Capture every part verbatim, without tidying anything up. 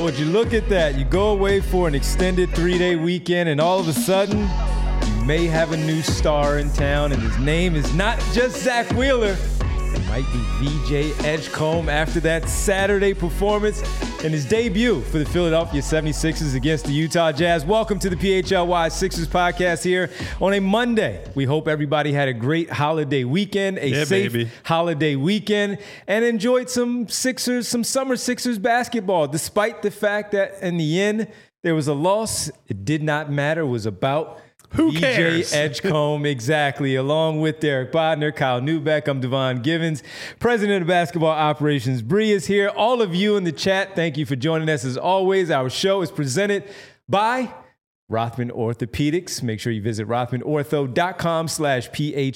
Well, would you look at that? You go away for an extended three-day weekend, and all of a sudden, you may have a new star in town, and his name is not just Zach Wheeler. It might be V J Edgecombe after that Saturday performance and his debut for the Philadelphia seventy-sixers against the Utah Jazz. Welcome to the P H L Y Sixers podcast here on a Monday. We hope everybody had a great holiday weekend, a yeah, safe baby. holiday weekend, and enjoyed some Sixers, some summer Sixers basketball, despite the fact that in the end, there was a loss. It did not matter. It was about Who V J cares? Edgecombe, exactly. Along with Derek Bodner, Kyle Newbeck, I'm Devon Givens, president of basketball operations. Bree is here. All of you in the chat, thank you for joining us. As always, our show is presented by Rothman Orthopedics. Make sure you visit rothmanortho.com slash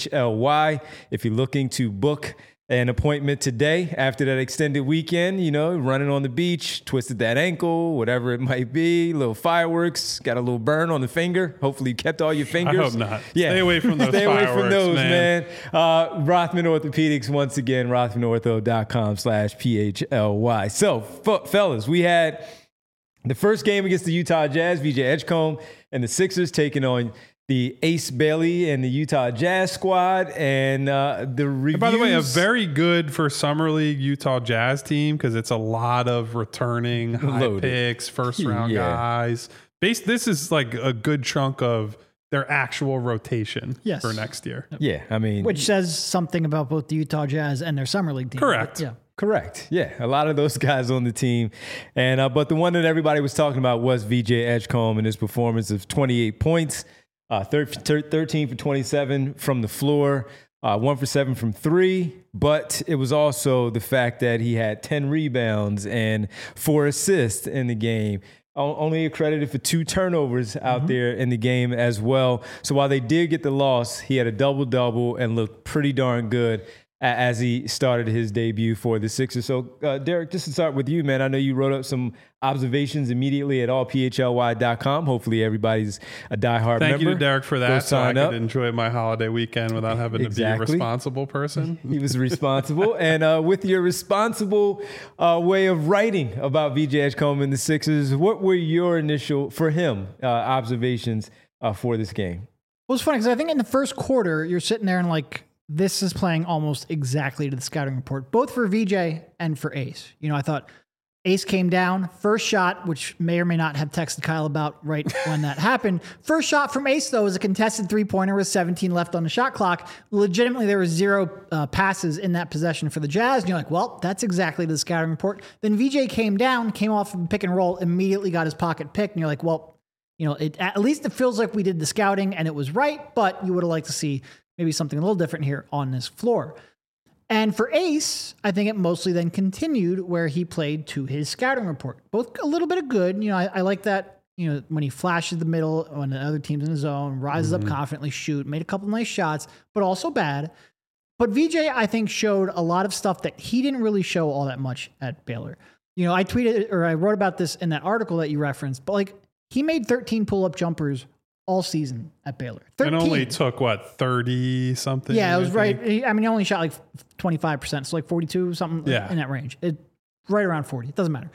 PHLY if you're looking to book an appointment today after that extended weekend, you know, running on the beach, twisted that ankle, whatever it might be, little fireworks, got a little burn on the finger. Hopefully you kept all your fingers. I hope not. Yeah. Stay away from those Stay away fireworks, from those, man. man. Uh, Rothman Orthopedics, once again, rothmanortho.com slash PHLY. So, f- fellas, we had the first game against the Utah Jazz, V J Edgecombe and the Sixers taking on the Ace Bailey and the Utah Jazz squad, and uh, the reviews. And by the way, a very good for Summer League Utah Jazz team because it's a lot of returning high Loaded. picks, first round Yeah. guys. Base, this is like a good chunk of their actual rotation Yes. for next year. Yeah, I mean, Which says something about both the Utah Jazz and their summer league team. Correct. Yeah. correct. Yeah, a lot of those guys on the team, and uh, but the one that everybody was talking about was V J Edgecombe and his performance of twenty-eight points. Uh, thirteen for twenty-seven from the floor, uh, one for seven from three. But it was also the fact that he had ten rebounds and four assists in the game. O- Only accredited for two turnovers out Mm-hmm. there in the game as well. So while they did get the loss, he had a double-double and looked pretty darn good a- as he started his debut for the Sixers. So, uh, Derek, just to start with you, man, I know you wrote up some observations immediately at all P H L Y dot com. Hopefully everybody's a diehard Thank member. you to Derek for Go that, so I sign could up. enjoy my holiday weekend without having to be Exactly. a responsible person. He was responsible. And uh, with your responsible uh, way of writing about V J Edgecombe and the Sixers, what were your initial, for him, uh, observations uh, for this game? Well, it's funny because I think in the first quarter, you're sitting there and like, this is playing almost exactly to the scouting report, both for V J and for Ace. You know, I thought Ace came down, first shot, which may or may not have texted Kyle about right when that happened. First shot from Ace, though, was a contested three-pointer with seventeen left on the shot clock. Legitimately, there was zero uh, passes in that possession for the Jazz. And you're like, well, that's exactly the scouting report. Then V J came down, came off of pick and roll, immediately got his pocket picked. And you're like, well, you know, it, at least it feels like we did the scouting and it was right, but you would have liked to see maybe something a little different here on this floor. And for Ace, I think it mostly then continued where he played to his scouting report. Both a little bit of good. You know, I, I like that, you know, when he flashes the middle, when the other team's in the zone, rises Mm-hmm. up confidently, shoot, made a couple nice shots, but also bad. But V J, I think, showed a lot of stuff that he didn't really show all that much at Baylor. You know, I tweeted or I wrote about this in that article that you referenced, but like he made thirteen pull-up jumpers all season at Baylor. And only took, what, thirty something? Yeah, it was I right. think? He- I mean, he only shot like twenty-five percent. So like forty-two, something Yeah. in that range. It, right around forty. It doesn't matter.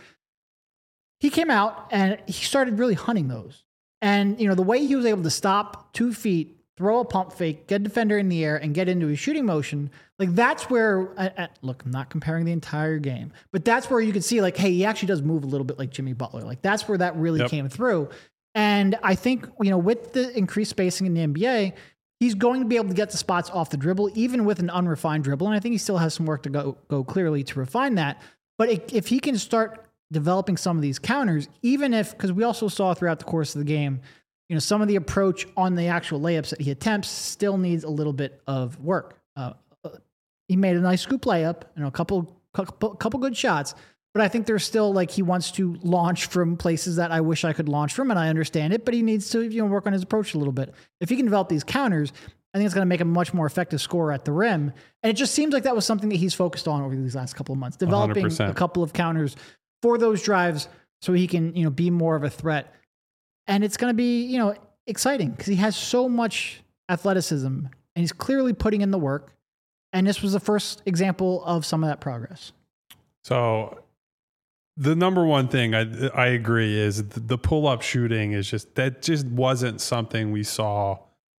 He came out and he started really hunting those. And, you know, the way he was able to stop two feet, throw a pump fake, get a defender in the air, and get into his shooting motion, like that's where, uh, uh, look, I'm not comparing the entire game, but that's where you could see like, hey, he actually does move a little bit like Jimmy Butler. Like that's where that really Yep. came through. And I think, you know, with the increased spacing in the N B A, he's going to be able to get the spots off the dribble, even with an unrefined dribble. And I think he still has some work to go, go clearly to refine that. But it, if he can start developing some of these counters, even if, because we also saw throughout the course of the game, you know, some of the approach on the actual layups that he attempts still needs a little bit of work. Uh, he made a nice scoop layup, you know, a couple, couple, couple good shots. But I think there's still like he wants to launch from places that I wish I could launch from, and I understand it. But he needs to, you know, work on his approach a little bit. If he can develop these counters, I think it's going to make him a much more effective scorer at the rim. And it just seems like that was something that he's focused on over these last couple of months, developing one hundred percent. a couple of counters for those drives, so he can, you know, be more of a threat. And it's going to be, you know, exciting because he has so much athleticism, and he's clearly putting in the work. And this was the first example of some of that progress. So the number one thing I I agree is the, the pull up shooting is just that just wasn't something we saw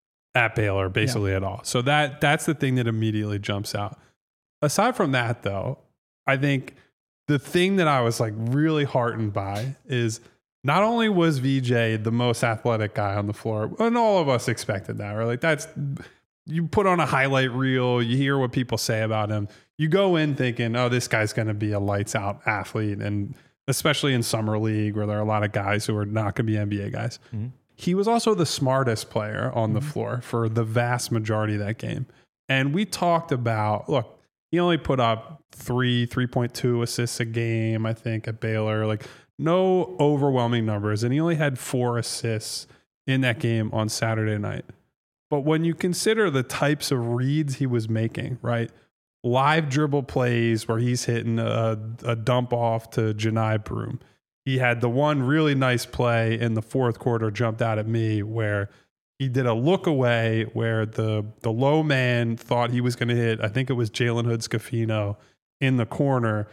at Baylor basically yeah. at all. So that that's the thing that immediately jumps out. Aside from that, though, I think the thing that I was like really heartened by is not only was V J the most athletic guy on the floor, and all of us expected that, right? Like that's, you put on a highlight reel, you hear what people say about him. You go in thinking, oh, this guy's going to be a lights out athlete. And especially in summer league where there are a lot of guys who are not going to be N B A guys. Mm-hmm. He was also the smartest player on mm-hmm. the floor for the vast majority of that game. And we talked about, look, he only put up three, three point two assists a game, I think, at Baylor. Like no overwhelming numbers. And he only had four assists in that game on Saturday night. But when you consider the types of reads he was making, right? Live dribble plays where he's hitting a, a dump off to Janai Broome. He had the one really nice play in the fourth quarter jumped out at me where he did a look away where the the low man thought he was going to hit, I think it was Jalen Hood-Schifino in the corner.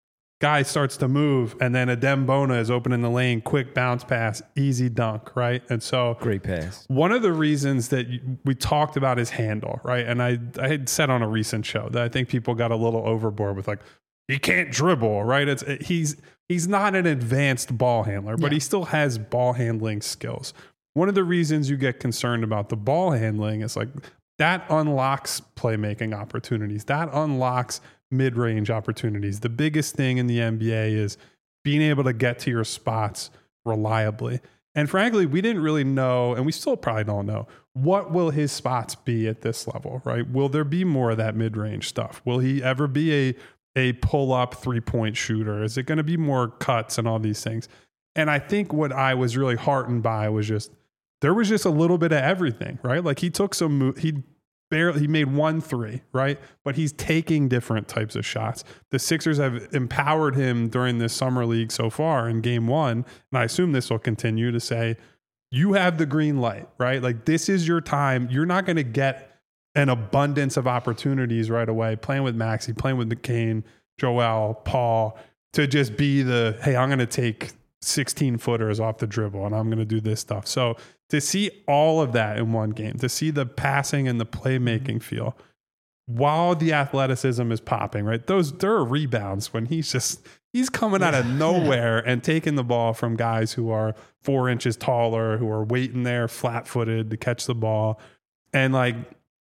Guy starts to move, and then Adem Bona is open in the lane, quick bounce pass, easy dunk, right? And so great pass. One of the reasons that we talked about his handle, right? And I, I had said on a recent show that I think people got a little overboard with like, he can't dribble, right? It's he's he's not an advanced ball handler, but yeah. he still has ball handling skills. One of the reasons you get concerned about the ball handling is like that unlocks playmaking opportunities. That unlocks mid-range opportunities. The biggest thing in the N B A is being able to get to your spots reliably. And frankly, we didn't really know, and we still probably don't know, what will his spots be at this level, right? Will there be more of that mid-range stuff? Will he ever be a, a pull-up three-point shooter? Is it going to be more cuts and all these things? And I think what I was really heartened by was just, there was just a little bit of everything, right? Like he took some, he barely, he made one three, right? But he's taking different types of shots. The Sixers have empowered him during this summer league so far in game one. And I assume this will continue to say, you have the green light, right? Like this is your time. You're not going to get an abundance of opportunities right away. Playing with Maxey, playing with McCain, Joel, Paul, to just be the, hey, I'm going to take sixteen footers off the dribble and I'm going to do this stuff. So to see all of that in one game, to see the passing and the playmaking feel while the athleticism is popping, right? Those, there are rebounds when he's just, he's coming out of nowhere and taking the ball from guys who are four inches taller, who are waiting there flat footed to catch the ball. And like,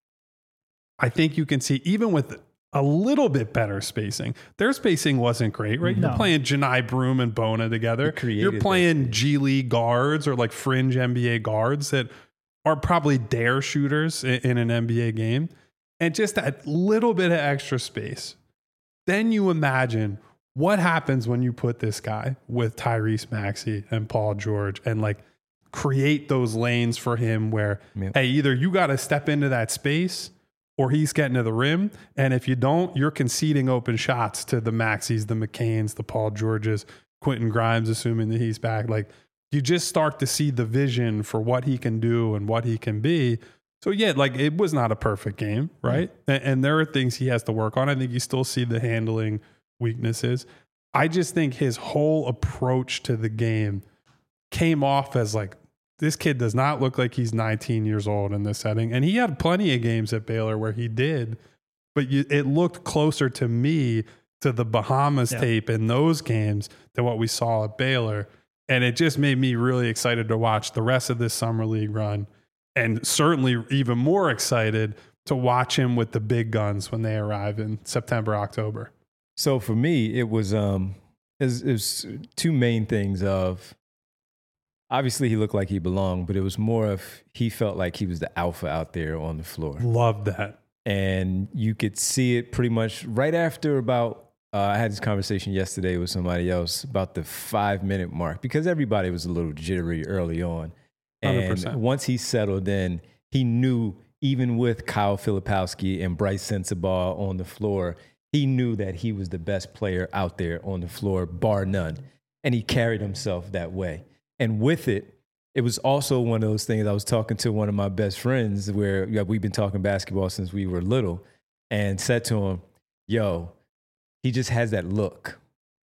I think you can see even with a little bit better spacing. Their spacing wasn't great, right? No. You're playing Janai Broome and Bona together. You're playing G League guards or like fringe N B A guards that are probably dare shooters in, in an N B A game. And just that little bit of extra space. Then you imagine what happens when you put this guy with Tyrese Maxey and Paul George and like create those lanes for him where, yep. hey, either you got to step into that space or he's getting to the rim. And if you don't, you're conceding open shots to the Maxies, the McCains, the Paul Georges, Quentin Grimes, assuming that he's back. Like you just start to see the vision for what he can do and what he can be. So yeah, like it was not a perfect game, right? Mm-hmm. And, and there are things he has to work on. I think you still see the handling weaknesses. I just think his whole approach to the game came off as like, this kid does not look like he's nineteen years old in this setting. And he had plenty of games at Baylor where he did, but you, it looked closer to me to the Bahamas yeah. tape in those games than what we saw at Baylor. And it just made me really excited to watch the rest of this summer league run. And certainly even more excited to watch him with the big guns when they arrive in September, October. So for me, it was, um, it was, it was two main things of, obviously, he looked like he belonged, but it was more of he felt like he was the alpha out there on the floor. Love that. And you could see it pretty much right after about, uh, I had this conversation yesterday with somebody else about the five-minute mark because everybody was a little jittery early on. And one hundred percent. Once he settled in, he knew even with Kyle Filipowski and Bryce Sensabaugh on the floor, he knew that he was the best player out there on the floor, bar none. And he carried himself that way. And with it, it was also one of those things. I was talking to one of my best friends where yeah, we've been talking basketball since we were little and said to him, yo, he just has that look.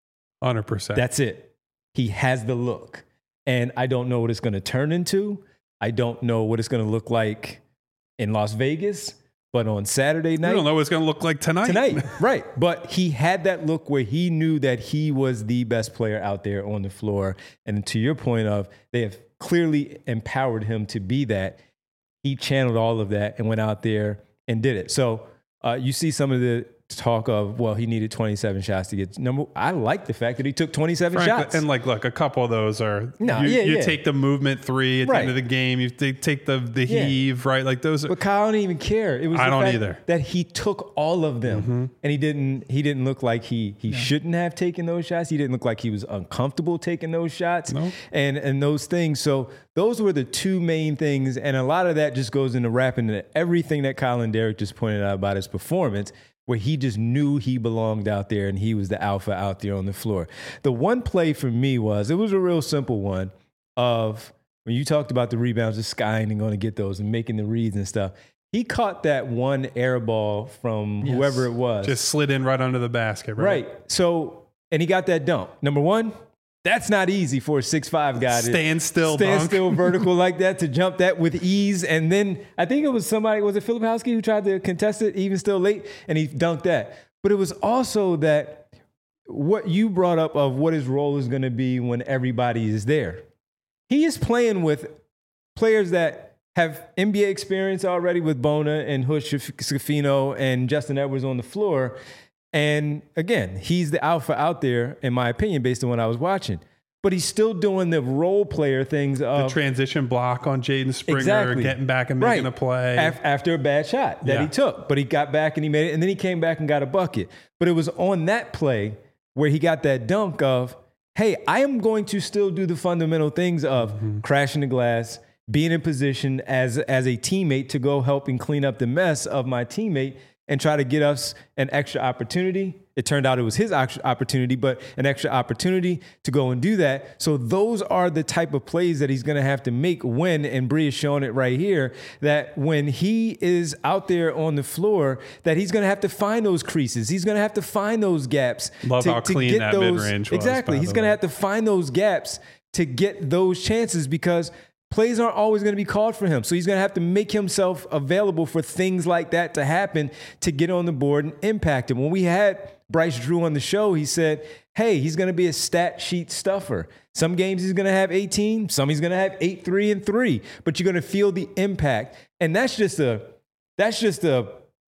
one hundred percent. That's it. He has the look. And I don't know what it's going to turn into. I don't know what it's going to look like in Las Vegas. But on Saturday night, we don't know what it's going to look like tonight. Tonight, right. But he had that look where he knew that he was the best player out there on the floor. And to your point of, they have clearly empowered him to be that. He channeled all of that and went out there and did it. So uh, you see some of the talk of, well, he needed twenty-seven shots to get number. I like the fact that he took twenty-seven Frankly, shots. and like, look, a couple of those are no, you, yeah, you yeah. take the movement three at Right. the end of the game. You take, take the the Yeah. heave, right? Like those. Are, But Kyle, I don't even care. It was I the don't fact either. that he took all of them, Mm-hmm. and he didn't. He didn't look like he he shouldn't have taken those shots. He didn't look like he was uncomfortable taking those shots, No. and and those things. So those were the two main things, and a lot of that just goes into wrapping into everything that Kyle and Derek just pointed out about his performance, where he just knew he belonged out there and he was the alpha out there on the floor. The one play for me was, it was a real simple one of when you talked about the rebounds, the skying and going to get those and making the reads and stuff. He caught that one air ball from Yes. whoever it was. just slid in right under the basket, right? right. So, and he got that dunk. Number one, that's not easy for a six five guy to Stand still, stand dunk. still vertical like that, to jump that with ease. And then I think it was somebody, was it Filipowski who tried to contest it even still late, and he dunked that. But it was also that what you brought up of what his role is going to be when everybody is there. He is playing with players that have N B A experience already with Bona and Hush Scafino and Justin Edwards on the floor. And again, he's the alpha out there, in my opinion, based on what I was watching. But he's still doing the role player things The of transition block on Jaden Springer, Exactly. getting back and making Right. a play. Af- after a bad shot that Yeah. he took. But he got back and he made it, and then he came back and got a bucket. But it was on that play where he got that dunk of, hey, I am going to still do the fundamental things of Mm-hmm. crashing the glass, being in position as, as a teammate to go help and clean up the mess of my teammate and try to get us an extra opportunity. It turned out it was his opportunity, but an extra opportunity to go and do that. So those are the type of plays that he's going to have to make when, and Bree is showing it right here, that when he is out there on the floor, that he's going to have to find those creases. He's going to have to find those gaps. Love to, how to clean get that those, mid-range was, Exactly. by He's the going to way. have to find those gaps to get those chances, because plays aren't always going to be called for him. So he's going to have to make himself available for things like that to happen, to get on the board and impact him. When we had Bryce Drew on the show, he said, hey, he's going to be a stat sheet stuffer. Some games he's going to have eighteen, some he's going to have eight, three, and three, but you're going to feel the impact. And that's just a, that's just a,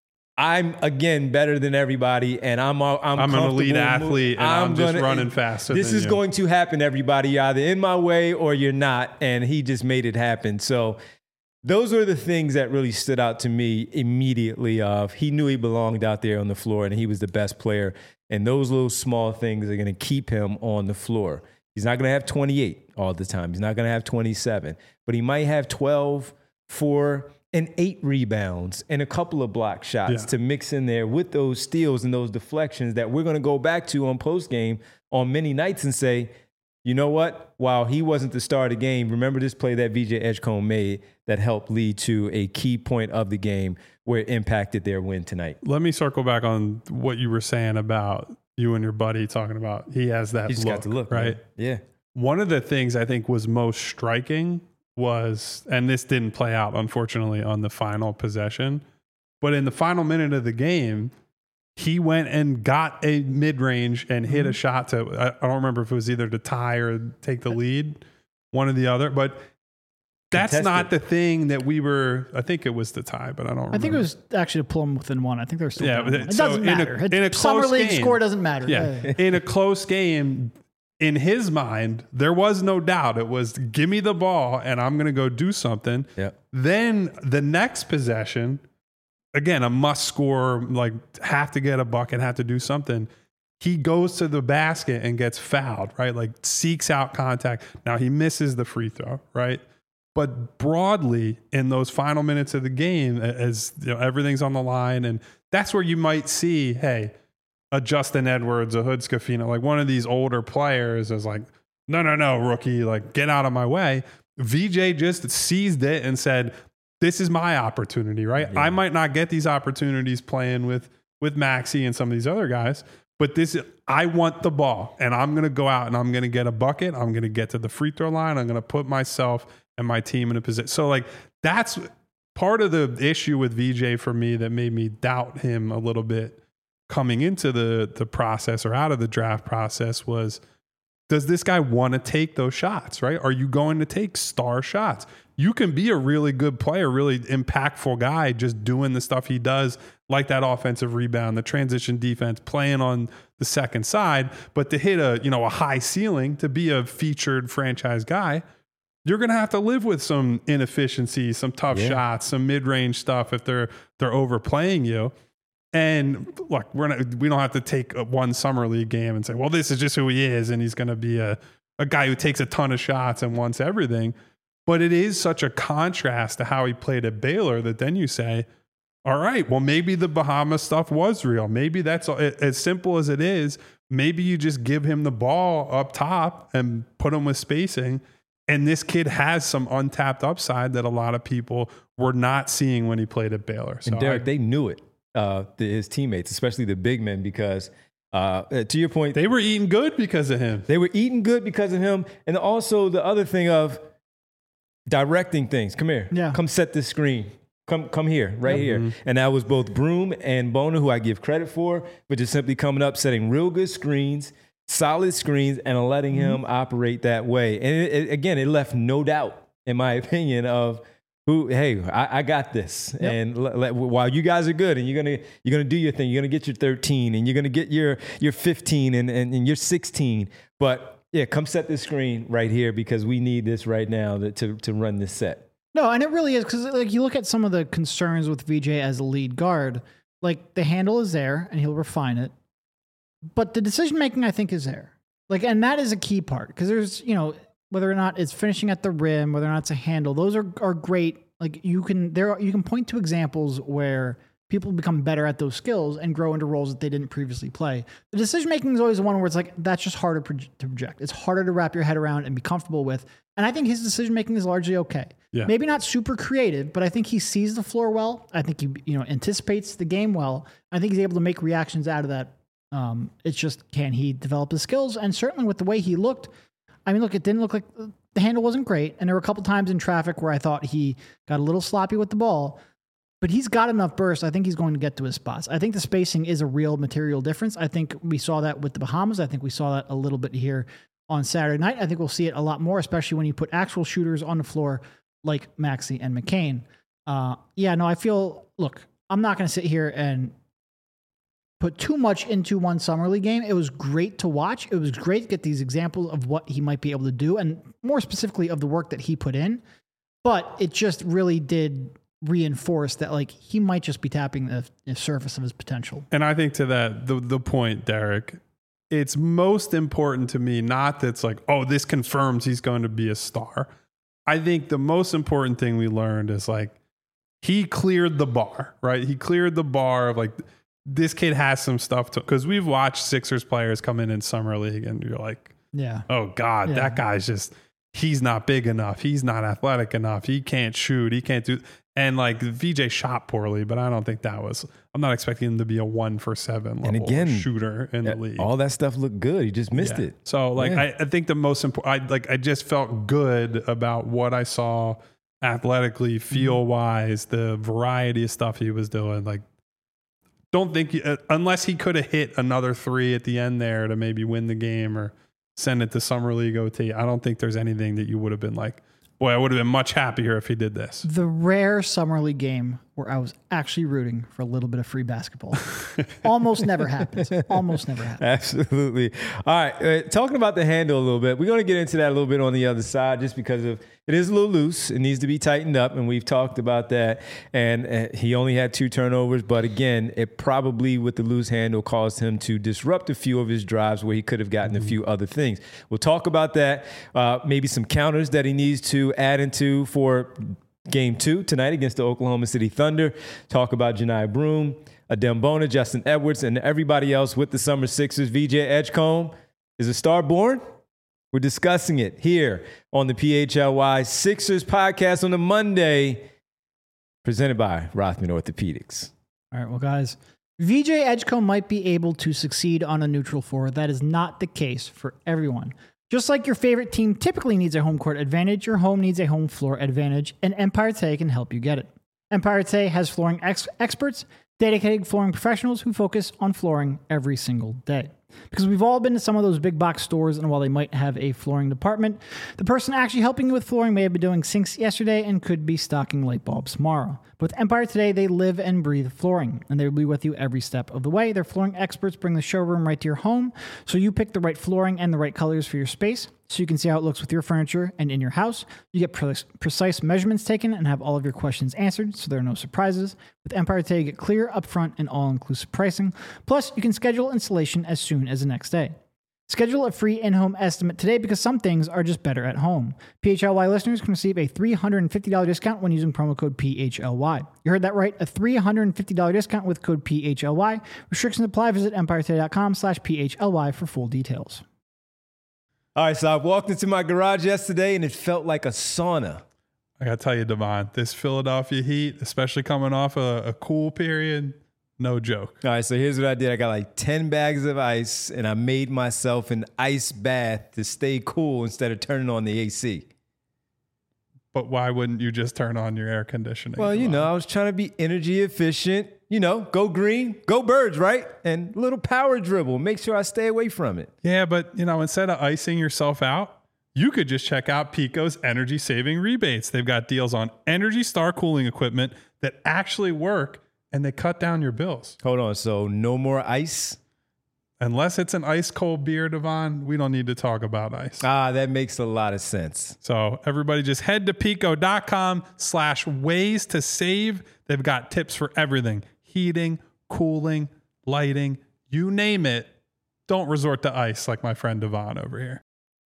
I'm again better than everybody, and I'm I'm, I'm an comfortable elite mo- athlete, and I'm just gonna- running faster This than is you. going to happen, everybody. You're either in my way or you're not, and he just made it happen. So those are the things that really stood out to me immediately. Of he knew he belonged out there on the floor, and he was the best player. And those little small things are going to keep him on the floor. He's not going to have twenty-eight all the time. He's not going to have twenty-seven, but he might have twelve, four, and eight rebounds and a couple of block shots Yeah. to mix in there with those steals and those deflections that we're going to go back to on post game on many nights and say, you know what? While he wasn't the star of the game, remember this play that V J Edgecombe made that helped lead to a key point of the game where it impacted their win tonight. Let me circle back on what you were saying about you and your buddy talking about he has that He just look, got to look, right? man. Yeah. One of the things I think was most striking was, and this didn't play out, unfortunately, on the final possession, but in the final minute of the game, he went and got a mid-range and hit Mm-hmm. a shot to, I I don't remember if it was either to tie or take the lead, one or the other, but that's Contested. not the thing that we were, I think it was the tie, but I don't remember. I think it was actually to pull them within one. I think they're still Yeah, down but one. it- It so doesn't in a- matter. It- in a Summer close League game- score doesn't matter. Yeah. In a close game, in his mind, there was no doubt. It was, give me the ball and I'm going to go do something. Yeah. Then the next possession, again, a must score, like have to get a bucket, have to do something. He goes to the basket and gets fouled, right? Like seeks out contact. Now he misses the free throw, right? But broadly, in those final minutes of the game, as you know, everything's on the line, and that's where you might see, hey, a Justin Edwards, a Hood Scafino, like one of these older players is like, no, no, no, rookie, like get out of my way. V J just seized it and said, this is my opportunity, right? Yeah. I might not get these opportunities playing with with Maxey and some of these other guys, But this, I want the ball, and I'm going to go out and I'm going to get a bucket. I'm going to get to the free throw line. I'm going to put myself and my team in a position. So, like, that's part of the issue with V J for me that made me doubt him a little bit coming into the the process or out of the draft process was, does this guy want to take those shots, right? Are you going to take star shots? You can be a really good player, really impactful guy, just doing the stuff he does, like that offensive rebound, the transition defense, playing on the second side. But to hit a, you know, a high ceiling, to be a featured franchise guy, you're going to have to live with some inefficiencies, some tough yeah. shots, some mid-range stuff if they're they're overplaying you. And look, we're not, we don't have to take a one summer league game and say, well, this is just who he is, and he's going to be a, a guy who takes a ton of shots and wants everything. But it is such a contrast to how he played at Baylor that then you say, all right, well, maybe the Bahamas stuff was real. Maybe that's as simple as it is. Maybe you just give him the ball up top and put him with spacing. And this kid has some untapped upside that a lot of people were not seeing when he played at Baylor. So and Derek, I, they knew it, uh, the, his teammates, especially the big men, because uh, to your point, they were eating good because of him. They were eating good because of him. And also the other thing of directing things. Come here. Yeah. Come set this screen. Come come here, right yep. here. Mm-hmm. And that was both Broome and Bona, who I give credit for, but just simply coming up, setting real good screens, solid screens, and letting him mm-hmm. operate that way. And it, it, again, it left no doubt, in my opinion, of who, hey, I, I got this. Yep. And l- l- while you guys are good and you're gonna you're gonna do your thing, you're gonna get your thirteen and you're gonna get your your fifteen and, and, and your sixteen. But yeah, come set this screen right here because we need this right now to to, to run this set. No, and it really is because like you look at some of the concerns with V J as a lead guard, like the handle is there and he'll refine it, but the decision making I think is there. Like, and that is a key part because there's you know whether or not it's finishing at the rim, whether or not it's a handle, those are are great. Like you can there you can point to examples where people become better at those skills and grow into roles that they didn't previously play. The decision making is always the one where it's like that's just harder to project. It's harder to wrap your head around and be comfortable with. And I think his decision making is largely okay. Yeah. Maybe not super creative, but I think he sees the floor well. I think he, you know, anticipates the game well. I think he's able to make reactions out of that. Um, it's just, can he develop his skills? And certainly with the way he looked, I mean, look, it didn't look like the handle wasn't great. And there were a couple times in traffic where I thought he got a little sloppy with the ball, but he's got enough burst. I think he's going to get to his spots. I think the spacing is a real material difference. I think we saw that with the Bahamas. I think we saw that a little bit here on Saturday night. I think we'll see it a lot more, especially when you put actual shooters on the floor like Maxey and McCain. Uh, yeah, no, I feel, look, I'm not going to sit here and put too much into one summer league game. It was great to watch. It was great to get these examples of what he might be able to do, and more specifically of the work that he put in. But it just really did reinforce that, like, he might just be tapping the, the surface of his potential. And I think to that, the the point, Derek, it's most important to me, not that it's like, oh, this confirms he's going to be a star. I think the most important thing we learned is like, he cleared the bar, right? He cleared the bar of like, this kid has some stuff to, because we've watched Sixers players come in in summer league and you're like, yeah, oh God, yeah. that guy's just, he's not big enough. He's not athletic enough. He can't shoot. He can't do, and like V J shot poorly, but I don't think that was, I'm not expecting him to be a one for seven level and again, shooter in the league. All that stuff looked good. He just missed yeah. it. So like, yeah. I, I think the most important, I like, I just felt good about what I saw athletically, feel wise, the variety of stuff he was doing. Like, don't think, uh, unless he could have hit another three at the end there to maybe win the game or send it to Summer League O T, I don't think there's anything that you would have been like, boy, I would have been much happier if he did this. The rare Summer League game where I was actually rooting for a little bit of free basketball. Almost never happens. Almost never happens. Absolutely. All right. Uh, talking about the handle a little bit, we're going to get into that a little bit on the other side just because of it is a little loose. It needs to be tightened up, and we've talked about that. And uh, he only had two turnovers, but again, it probably with the loose handle caused him to disrupt a few of his drives where he could have gotten mm-hmm. a few other things. We'll talk about that. Uh, maybe some counters that he needs to add into for Game two tonight against the Oklahoma City Thunder. Talk about Johni Broome, Adem Bona, Justin Edwards, and everybody else with the Summer Sixers. V J Edgecombe, is a star born? We're discussing it here on the P H L Y Sixers podcast on a Monday, presented by Rothman Orthopedics. All right, well, guys, V J Edgecombe might be able to succeed on a neutral floor. That is not the case for everyone. Just like your favorite team typically needs a home court advantage, your home needs a home floor advantage, and Empire Today can help you get it. Empire Today has flooring ex- experts, dedicated flooring professionals who focus on flooring every single day. Because we've all been to some of those big box stores, and while they might have a flooring department, the person actually helping you with flooring may have been doing sinks yesterday and could be stocking light bulbs tomorrow. But with Empire Today, they live and breathe flooring, and they'll be with you every step of the way. Their flooring experts bring the showroom right to your home, so you pick the right flooring and the right colors for your space, so you can see how it looks with your furniture and in your house. You get pre- precise measurements taken and have all of your questions answered, so there are no surprises. With Empire Today, you get clear, upfront, and all-inclusive pricing. Plus, you can schedule installation as soon as the next day. Schedule a free in-home estimate today because some things are just better at home. P H L Y listeners can receive a three hundred fifty dollars discount when using promo code P H L Y. You heard that right, a three hundred fifty dollars discount with code P H L Y. Restrictions apply. Visit empiretoday.com slash PHLY for full details. All right, so I walked into my garage yesterday and it felt like a sauna. I got to tell you, Devon, this Philadelphia heat, especially coming off a, a cool period, no joke. All right, so here's what I did. I got like ten bags of ice and I made myself an ice bath to stay cool instead of turning on the A C. But why wouldn't you just turn on your air conditioning? Well, you know, I was trying to be energy efficient. You know, go green, go birds, right? And a little power dribble. Make sure I stay away from it. Yeah, but, you know, instead of icing yourself out, you could just check out Pico's energy saving rebates. They've got deals on Energy Star cooling equipment that actually work, and they cut down your bills. Hold on. So no more ice? Unless it's an ice cold beer, Devon, we don't need to talk about ice. Ah, that makes a lot of sense. So everybody just head to pico.com slash ways to save. They've got tips for everything. Heating, cooling, lighting, you name it. Don't resort to ice like my friend Devon over here.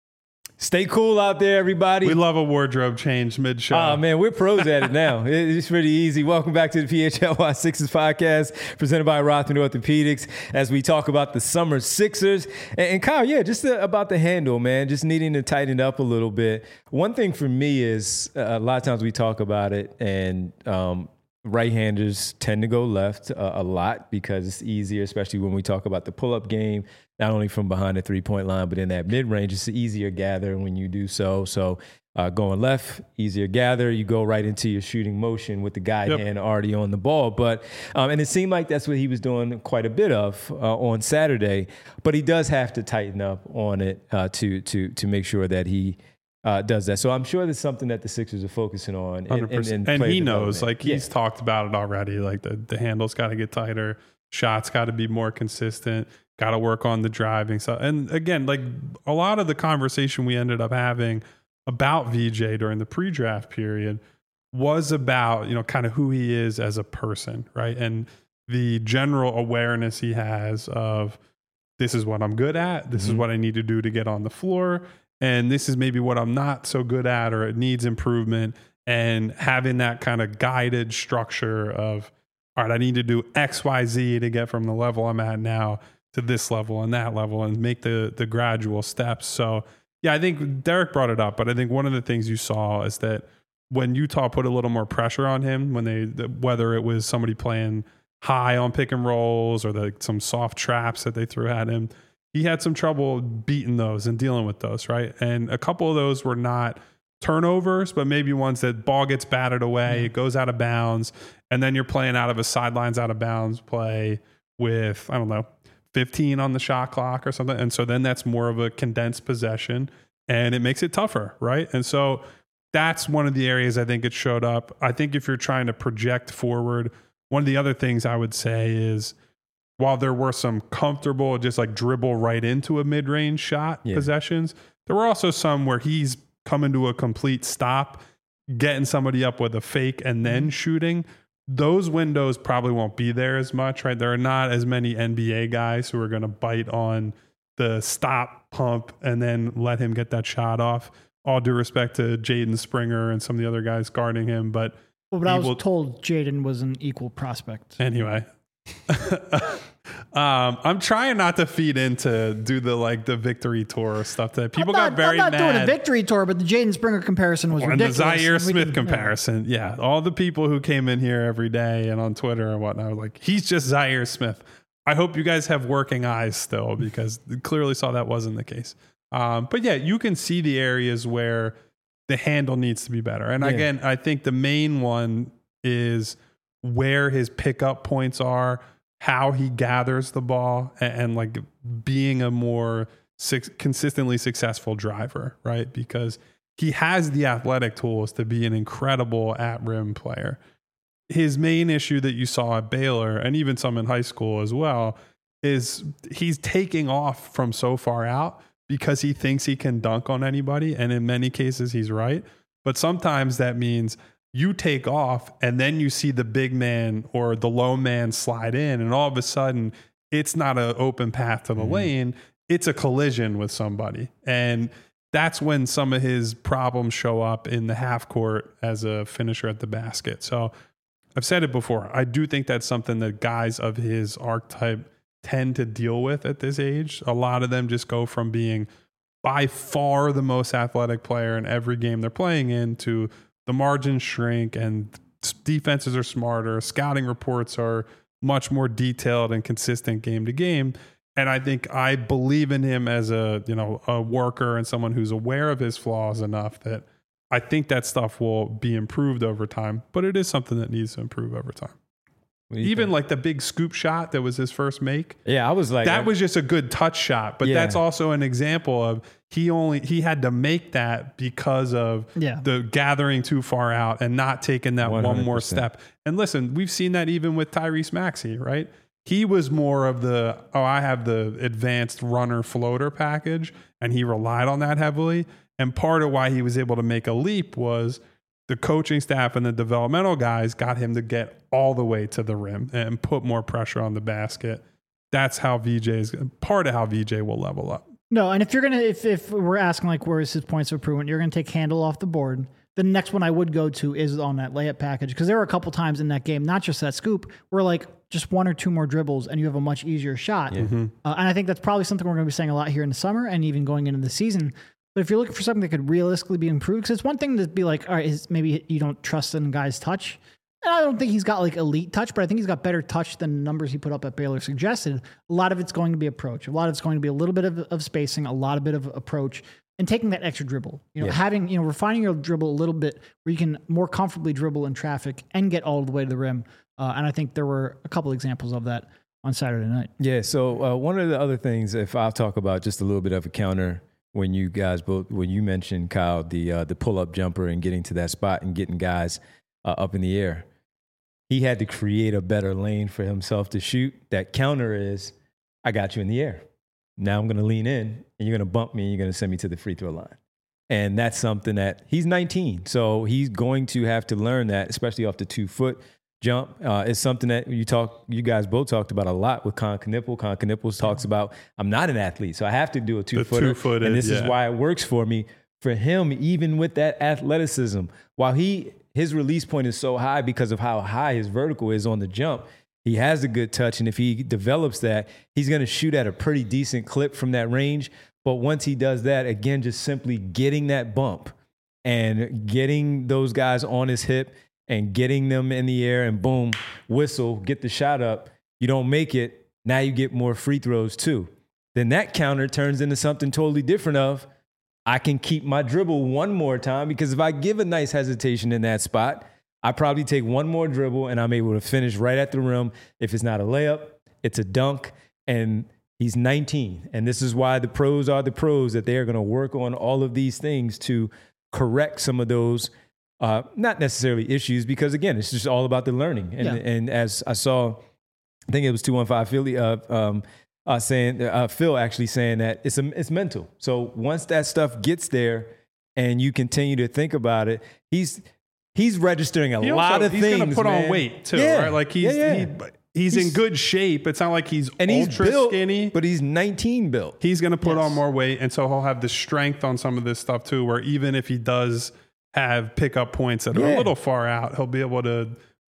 Stay cool out there, everybody. We love a wardrobe change mid-show. Oh, man, we're pros at it now. It's pretty easy. Welcome back to the P H L Y Sixers podcast, presented by Rothman Orthopedics, as we talk about the summer Sixers. And, and Kyle, yeah, just the, about the handle, man, just needing to tighten it up a little bit. One thing for me is uh, a lot of times we talk about it, and um, right-handers tend to go left uh, a lot because it's easier, especially when we talk about the pull-up game, not only from behind the three-point line, but in that mid-range. It's easier gather when you do so. So uh, going left, easier gather. You go right into your shooting motion with the guide Yep. hand already on the ball. But um, and it seemed like that's what he was doing quite a bit of uh, on Saturday. But he does have to tighten up on it uh, to to to make sure that he Uh, does that. So I'm sure that's something that the Sixers are focusing on. one hundred percent. And he knows, like he's yeah. talked about it already. Like the, the handle's got to get tighter. Shots got to be more consistent. Got to work on the driving. So, and again, like a lot of the conversation we ended up having about V J during the pre-draft period was about, you know, kind of who he is as a person, right? And the general awareness he has of this is what I'm good at. This mm-hmm. is what I need to do to get on the floor. And this is maybe what I'm not so good at, or it needs improvement. And having that kind of guided structure of, all right, I need to do X, Y, Z to get from the level I'm at now to this level and that level, and make the the gradual steps. So, yeah, I think Derek brought it up, but I think one of the things you saw is that when Utah put a little more pressure on him, when they, whether it was somebody playing high on pick and rolls or the, some soft traps that they threw at him, he had some trouble beating those and dealing with those, right? And a couple of those were not turnovers, but maybe ones that ball gets batted away, mm-hmm. it goes out of bounds, and then you're playing out of a sidelines out of bounds play with, I don't know, fifteen on the shot clock or something. And so then that's more of a condensed possession, and it makes it tougher, right? And so that's one of the areas I think it showed up. I think if you're trying to project forward, one of the other things I would say is, while there were some comfortable, just like dribble right into a mid-range shot yeah. possessions, there were also some where he's coming to a complete stop, getting somebody up with a fake and then shooting. Those windows probably won't be there as much, right? There are not as many N B A guys who are going to bite on the stop pump and then let him get that shot off. All due respect to Jaden Springer and some of the other guys guarding him, but well, but I was will, told Jaden was an equal prospect. Anyway. Um, I'm trying not to feed into do the like the victory tour stuff that people I'm not, got very I'm not mad. doing a victory tour, but the Jaden Springer comparison was and ridiculous. the Zaire We Smith can- comparison. Yeah. All the people who came in here every day and on Twitter and whatnot were like, he's just Zaire Smith. I hope you guys have working eyes still because clearly saw that wasn't the case. Um, but yeah, you can see the areas where the handle needs to be better. And Yeah. again, I think the main one is where his pickup points are, how he gathers the ball, and, and like being a more su- consistently successful driver, right? Because he has the athletic tools to be an incredible at rim player. His main issue that you saw at Baylor, and even some in high school as well, is he's taking off from so far out because he thinks he can dunk on anybody. And in many cases, he's right. But sometimes that means you take off and then you see the big man or the low man slide in, and all of a sudden it's not an open path to the mm-hmm. lane. It's a collision with somebody. And that's when some of his problems show up in the half court as a finisher at the basket. So I've said it before. I do think that's something that guys of his archetype tend to deal with at this age. A lot of them just go from being by far the most athletic player in every game they're playing in to the margins shrink and defenses are smarter. Scouting reports are much more detailed and consistent game to game. And I think I believe in him as a, you know, a worker and someone who's aware of his flaws enough that I think that stuff will be improved over time, but it is something that needs to improve over time. Even think? Like the big scoop shot that was his first make. Yeah, I was like, that I, was just a good touch shot, but yeah. that's also an example of he only, he had to make that because of yeah. the gathering too far out and not taking that one hundred percent one more step. And listen, we've seen that even with Tyrese Maxey, right? He was more of the, oh, I have the advanced runner floater package, and he relied on that heavily. And part of why he was able to make a leap was the coaching staff and the developmental guys got him to get all the way to the rim and put more pressure on the basket. That's how V J is part of how V J will level up. No, and if you're gonna, if if we're asking like where is his points of improvement, you're gonna take handle off the board. The next one I would go to is on that layup package, because there were a couple times in that game, not just that scoop, where like just one or two more dribbles and you have a much easier shot. Yeah. Mm-hmm. Uh, and I think that's probably something we're going to be saying a lot here in the summer and even going into the season. But if you're looking for something that could realistically be improved, because it's one thing to be like, all right, is maybe you don't trust in guys' touch. And I don't think he's got like elite touch, but I think he's got better touch than the numbers he put up at Baylor suggested. A lot of it's going to be approach. A lot of it's going to be a little bit of, of spacing, a lot of bit of approach, and taking that extra dribble. You know, yeah. having, you know, refining your dribble a little bit where you can more comfortably dribble in traffic and get all the way to the rim. Uh, and I think there were a couple examples of that on Saturday night. Yeah, so uh, one of the other things, if I'll talk about just a little bit of a counter, when you guys both, when you mentioned, Kyle, the uh, the pull-up jumper and getting to that spot and getting guys uh, up in the air, he had to create a better lane for himself to shoot. That counter is, I got you in the air. Now I'm going to lean in, and you're going to bump me, and you're going to send me to the free throw line. And that's something that he's nineteen, so he's going to have to learn that, especially off the two-foot jump. Uh, it's something that you talk, you guys both talked about a lot with Con Knipple. Con Knipples talks about, I'm not an athlete, so I have to do a two-footer. two-footed, and this yeah. is why it works for me. For him, even with that athleticism, while he his release point is so high because of how high his vertical is on the jump, he has a good touch, and if he develops that, he's going to shoot at a pretty decent clip from that range. But once he does that, again, just simply getting that bump and getting those guys on his hip and getting them in the air and boom, whistle, get the shot up. You don't make it. Now you get more free throws too. Then that counter turns into something totally different of, I can keep my dribble one more time, because if I give a nice hesitation in that spot, I probably take one more dribble and I'm able to finish right at the rim. If it's not a layup, it's a dunk. And he's nineteen. And this is why the pros are the pros, that they are going to work on all of these things to correct some of those Uh, not necessarily issues, because again, it's just all about the learning. And, Yeah. and as I saw, I think it was two one five Philly, uh, um, uh, saying, uh, Phil actually saying that it's a, it's mental. So once that stuff gets there and you continue to think about it, he's, he's registering a he lot also, of he's things. He's going to put man. on weight too, yeah. right? Like he's, yeah, yeah. He, he's, he's in good shape. It's not like he's and he's ultra built, skinny, but he's nineteen built. He's going to put Yes. on more weight. And so he'll have the strength on some of this stuff too, where even if he does have pickup points that are Yeah. a little far out, he'll be able to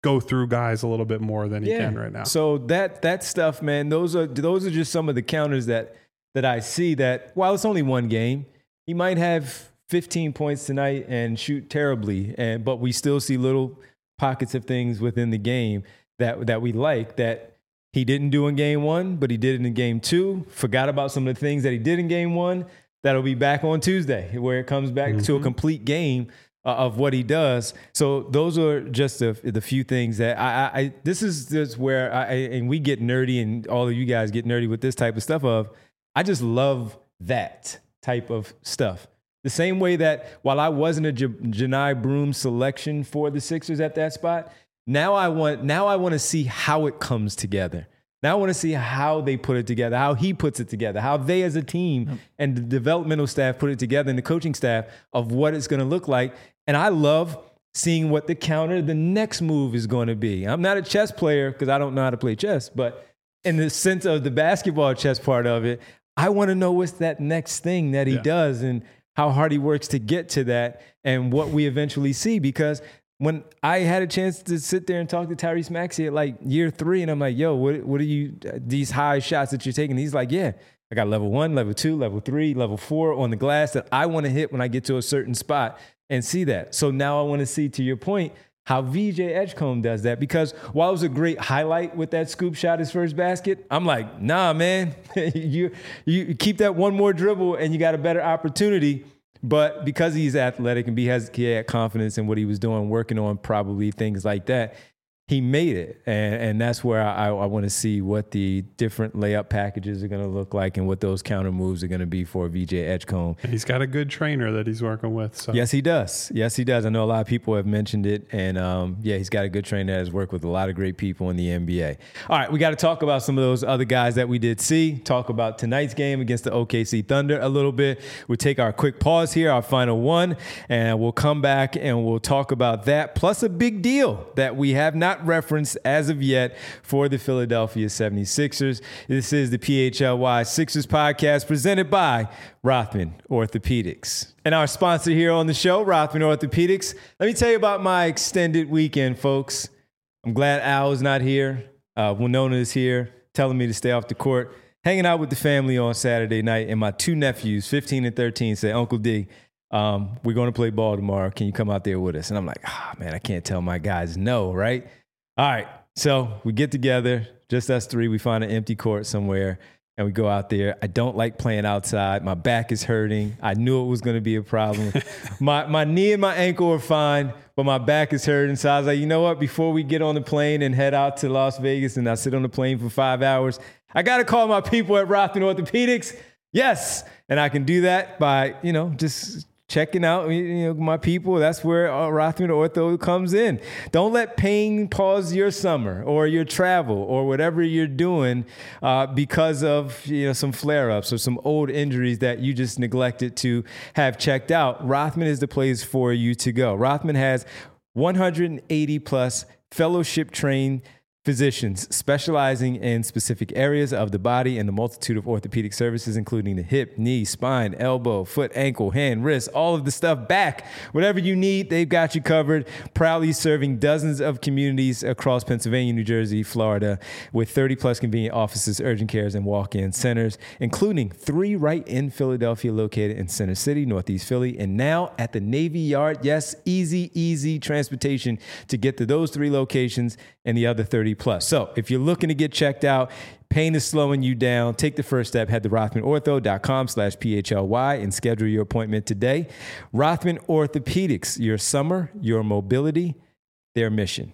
go through guys a little bit more than he yeah. can right now. So that that stuff, man, those are those are just some of the counters that that I see that while it's only one game, he might have fifteen points tonight and shoot terribly, and but we still see little pockets of things within the game that that we like that he didn't do in game one, but he did it in game two. Forgot about some of the things that he did in game one. That'll be back on Tuesday, where it comes back mm-hmm. to a complete game uh, of what he does. So those are just the, the few things that I, I, I this is just where I, and we get nerdy, and all of you guys get nerdy with this type of stuff of, I just love that type of stuff. The same way that while I wasn't a J- Janai Broom selection for the Sixers at that spot, now I want, now I want to see how it comes together. Now I want to see how they put it together, how he puts it together, how they as a team yep. and the developmental staff put it together, and the coaching staff of what it's going to look like. And I love seeing what the counter, the next move is going to be. I'm not a chess player because I don't know how to play chess, but in the sense of the basketball chess part of it, I want to know what's that next thing that he yeah. does and how hard he works to get to that and what we eventually see. Because when I had a chance to sit there and talk to Tyrese Maxey at like year three, and I'm like, yo, what what are you, these high shots that you're taking? He's like, yeah, I got level one, level two, level three, level four on the glass that I want to hit when I get to a certain spot and see that. So now I want to see, to your point, how V J Edgecombe does that. Because while it was a great highlight with that scoop shot, his first basket, I'm like, nah, man, you you keep that one more dribble and you got a better opportunity. But because he's athletic and he has he had confidence in what he was doing, working on probably things like that, he made it. And, and that's where I, I want to see what the different layup packages are going to look like and what those counter moves are going to be for V J Edgecombe. And he's got a good trainer that he's working with. So. Yes, he does. Yes, he does. I know a lot of people have mentioned it. And um, yeah, he's got a good trainer that has worked with a lot of great people in the N B A. All right, we got to talk about some of those other guys that we did see. Talk about tonight's game against the O K C Thunder a little bit. We'll take our quick pause here, our final one, and we'll come back and we'll talk about that. Plus a big deal that we have not referenced as of yet for the Philadelphia seventy-sixers. This is the P H L Y Sixers podcast presented by Rothman Orthopedics. And our sponsor here on the show, Rothman Orthopedics. Let me tell you about my extended weekend, folks. I'm glad Al is not here. Uh, Winona is here telling me to stay off the court. Hanging out with the family on Saturday night, and my two nephews, fifteen and thirteen, say, Uncle D, um, we're going to play ball tomorrow. Can you come out there with us? And I'm like, ah, oh, man, I can't tell my guys no, right? All right, so we get together, just us three. We find an empty court somewhere, and we go out there. I don't like playing outside. My back is hurting. I knew it was going to be a problem. my my knee and my ankle are fine, but my back is hurting. So I was like, you know what? Before we get on the plane and head out to Las Vegas and I sit on the plane for five hours, I got to call my people at Rothman Orthopedics. Yes, and I can do that by, you know, just checking out, you know, my people. That's where uh, Rothman Ortho comes in. Don't let pain pause your summer or your travel or whatever you're doing uh, because of, you know, some flare-ups or some old injuries that you just neglected to have checked out. Rothman is the place for you to go. Rothman has one hundred eighty plus fellowship-trained physicians specializing in specific areas of the body and the multitude of orthopedic services, including the hip, knee, spine, elbow, foot, ankle, hand, wrist, all of the stuff, back, whatever you need, they've got you covered. Proudly serving dozens of communities across Pennsylvania, New Jersey, Florida, with thirty plus convenient offices, urgent cares, and walk-in centers, including three right in Philadelphia located in Center City, Northeast Philly, and now at the Navy Yard. Yes, easy, easy transportation to get to those three locations and the other thirty plus. So if you're looking to get checked out, pain is slowing you down, take the first step. Head to rothmanortho.com slash PHLY and schedule your appointment today. Rothman Orthopedics, your summer, your mobility, their mission.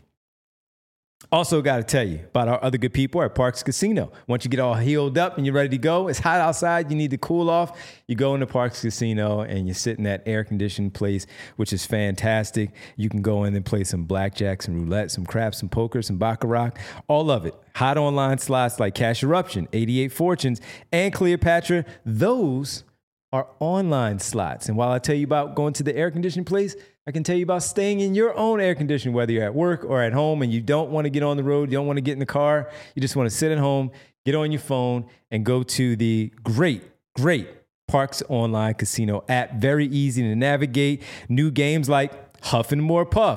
Also got to tell you about our other good people at Parks Casino. Once you get all healed up and you're ready to go, it's hot outside, you need to cool off, you go into Parks Casino and you sit in that air-conditioned place, which is fantastic. You can go in and play some blackjack, some roulette, some craps, some poker, some baccarat, all of it. Hot online slots like Cash Eruption, eighty-eight Fortunes, and Cleopatra. Those are online slots. And while I tell you about going to the air-conditioned place, I can tell you about staying in your own air conditioning, whether you're at work or at home and you don't want to get on the road, you don't want to get in the car, you just want to sit at home, get on your phone, and go to the great, great Parks Online Casino app. Very easy to navigate. New games like Huff and More Puff,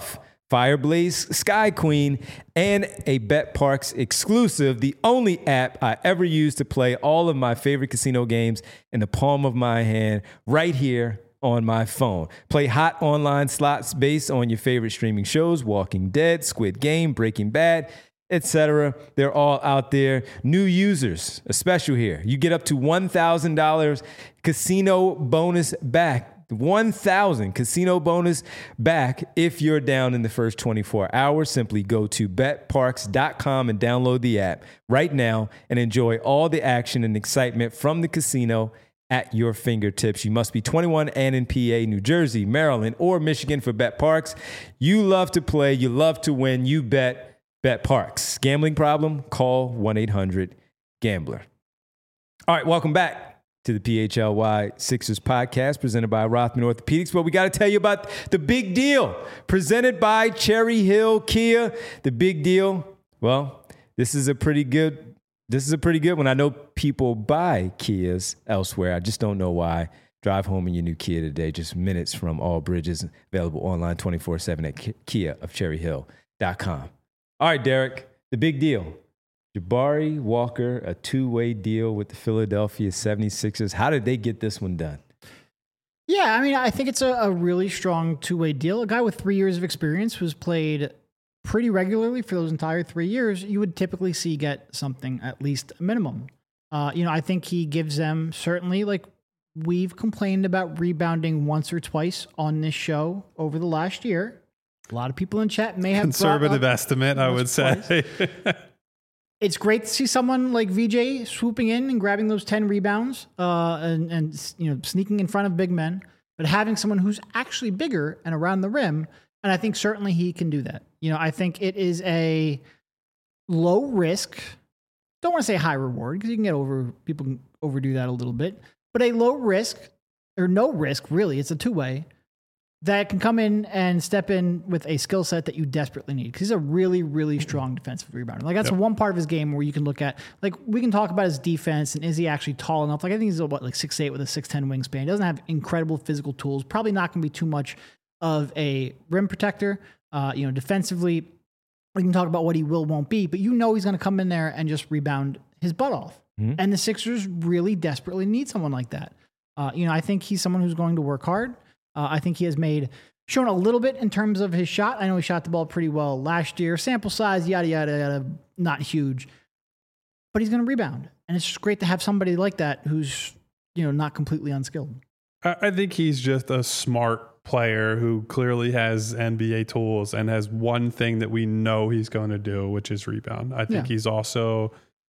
Fireblaze Sky Queen, and a BetParx exclusive, the only app I ever use to play all of my favorite casino games in the palm of my hand right here on my phone. Play hot online slots based on your favorite streaming shows, Walking Dead, Squid Game, Breaking Bad, et cetera. They're all out there. New users, a special here. You get up to one thousand dollars casino bonus back. one thousand casino bonus back if you're down in the first twenty-four hours. Simply go to bet parx dot com and download the app right now and enjoy all the action and excitement from the casino at your fingertips. You must be twenty-one and in P A, New Jersey, Maryland, or Michigan for BetParx. You love to play. You love to win. You bet BetParx. Gambling problem? Call one eight hundred gambler. All right, welcome back to the P H L Y Sixers podcast presented by Rothman Orthopedics. But we got to tell you about the big deal presented by Cherry Hill Kia. The big deal. Well, this is a pretty good, this is a pretty good one. I know people buy Kias elsewhere. I just don't know why. Drive home in your new Kia today, just minutes from all bridges, available online twenty-four seven at kia of cherry hill dot com. All right, Derek, the big deal. Jabari Walker, a two-way deal with the Philadelphia seventy-sixers. How did they get this one done? Yeah, I mean, I think it's a, a really strong two-way deal. A guy with three years of experience who's played pretty regularly for those entire three years, you would typically see get something at least a minimum. Uh, you know, I think he gives them certainly, like we've complained about rebounding once or twice on this show over the last year. A lot of people in chat may have conservative estimate, I would say. It's great to see someone like V J swooping in and grabbing those ten rebounds uh, and, and you know sneaking in front of big men, but having someone who's actually bigger and around the rim, and I think certainly he can do that. You know, I think it is a low risk, don't want to say high reward because you can get over, people can overdo that a little bit, but a low risk or no risk, really, it's a two-way, that can come in and step in with a skill set that you desperately need. Because he's a really, really strong defensive rebounder. Like that's yep. one part of his game where you can look at, like we can talk about his defense and is he actually tall enough? Like I think he's what, like six eight with a six ten wingspan. He doesn't have incredible physical tools. Probably not going to be too much of a rim protector. Uh, you know, defensively, we can talk about what he will, won't be, but you know he's going to come in there and just rebound his butt off. Mm-hmm. And the Sixers really desperately need someone like that. Uh, you know, I think he's someone who's going to work hard. Uh, I think he has made, shown a little bit in terms of his shot. I know he shot the ball pretty well last year. Sample size, yada, yada, yada, not huge. But he's going to rebound. And it's just great to have somebody like that who's, you know, not completely unskilled. I think he's just a smart player who clearly has N B A tools and has one thing that we know he's going to do, which is rebound. I think yeah. he's also...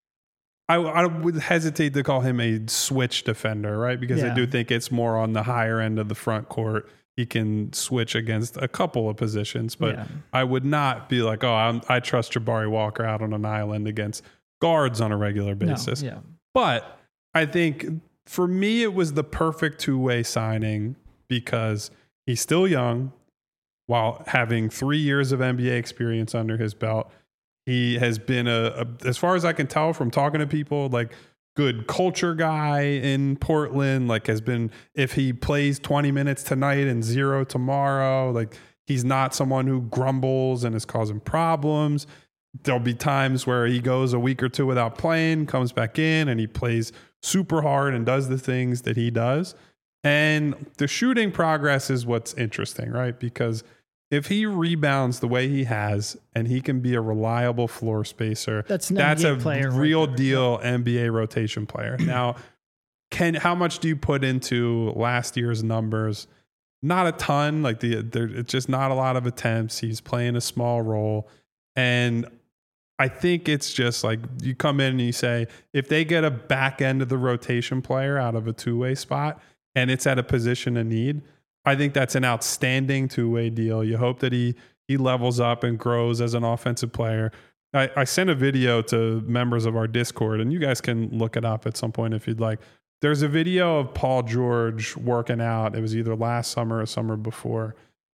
I, I would hesitate to call him a switch defender, right? Because yeah. I do think it's more on the higher end of the front court. He can switch against a couple of positions, but yeah. I would not be like, oh, I'm, I trust Jabari Walker out on an island against guards on a regular basis. No, yeah. But I think for me, it was the perfect two-way signing because he's still young while having three years of N B A experience under his belt. He has been a, a, as far as I can tell from talking to people, like good culture guy in Portland, like has been, if he plays twenty minutes tonight and zero tomorrow, like he's not someone who grumbles and is causing problems. There'll be times where he goes a week or two without playing, comes back in and he plays super hard and does the things that he does. And the shooting progress is what's interesting, right? Because if he rebounds the way he has and he can be a reliable floor spacer, that's, that's a real right deal N B A rotation player. Now, can how much do you put into last year's numbers? Not a ton. Like the there, it's just not a lot of attempts. He's playing a small role. And I think it's just like you come in and you say, if they get a back end of the rotation player out of a two-way spot and it's at a position of need, I think that's an outstanding two-way deal. You hope that he he levels up and grows as an offensive player. I, I sent a video to members of our Discord, and you guys can look it up at some point if you'd like. There's a video of Paul George working out. It was either last summer or summer before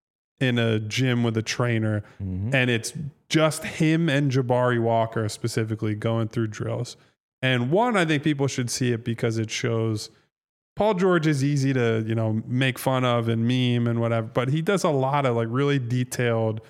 in a gym with a trainer, mm-hmm. and it's just him and Jabari Walker specifically going through drills. And one, I think people should see it because it shows – Paul George is easy to, you know, make fun of and meme and whatever, but he does a lot of like really detailed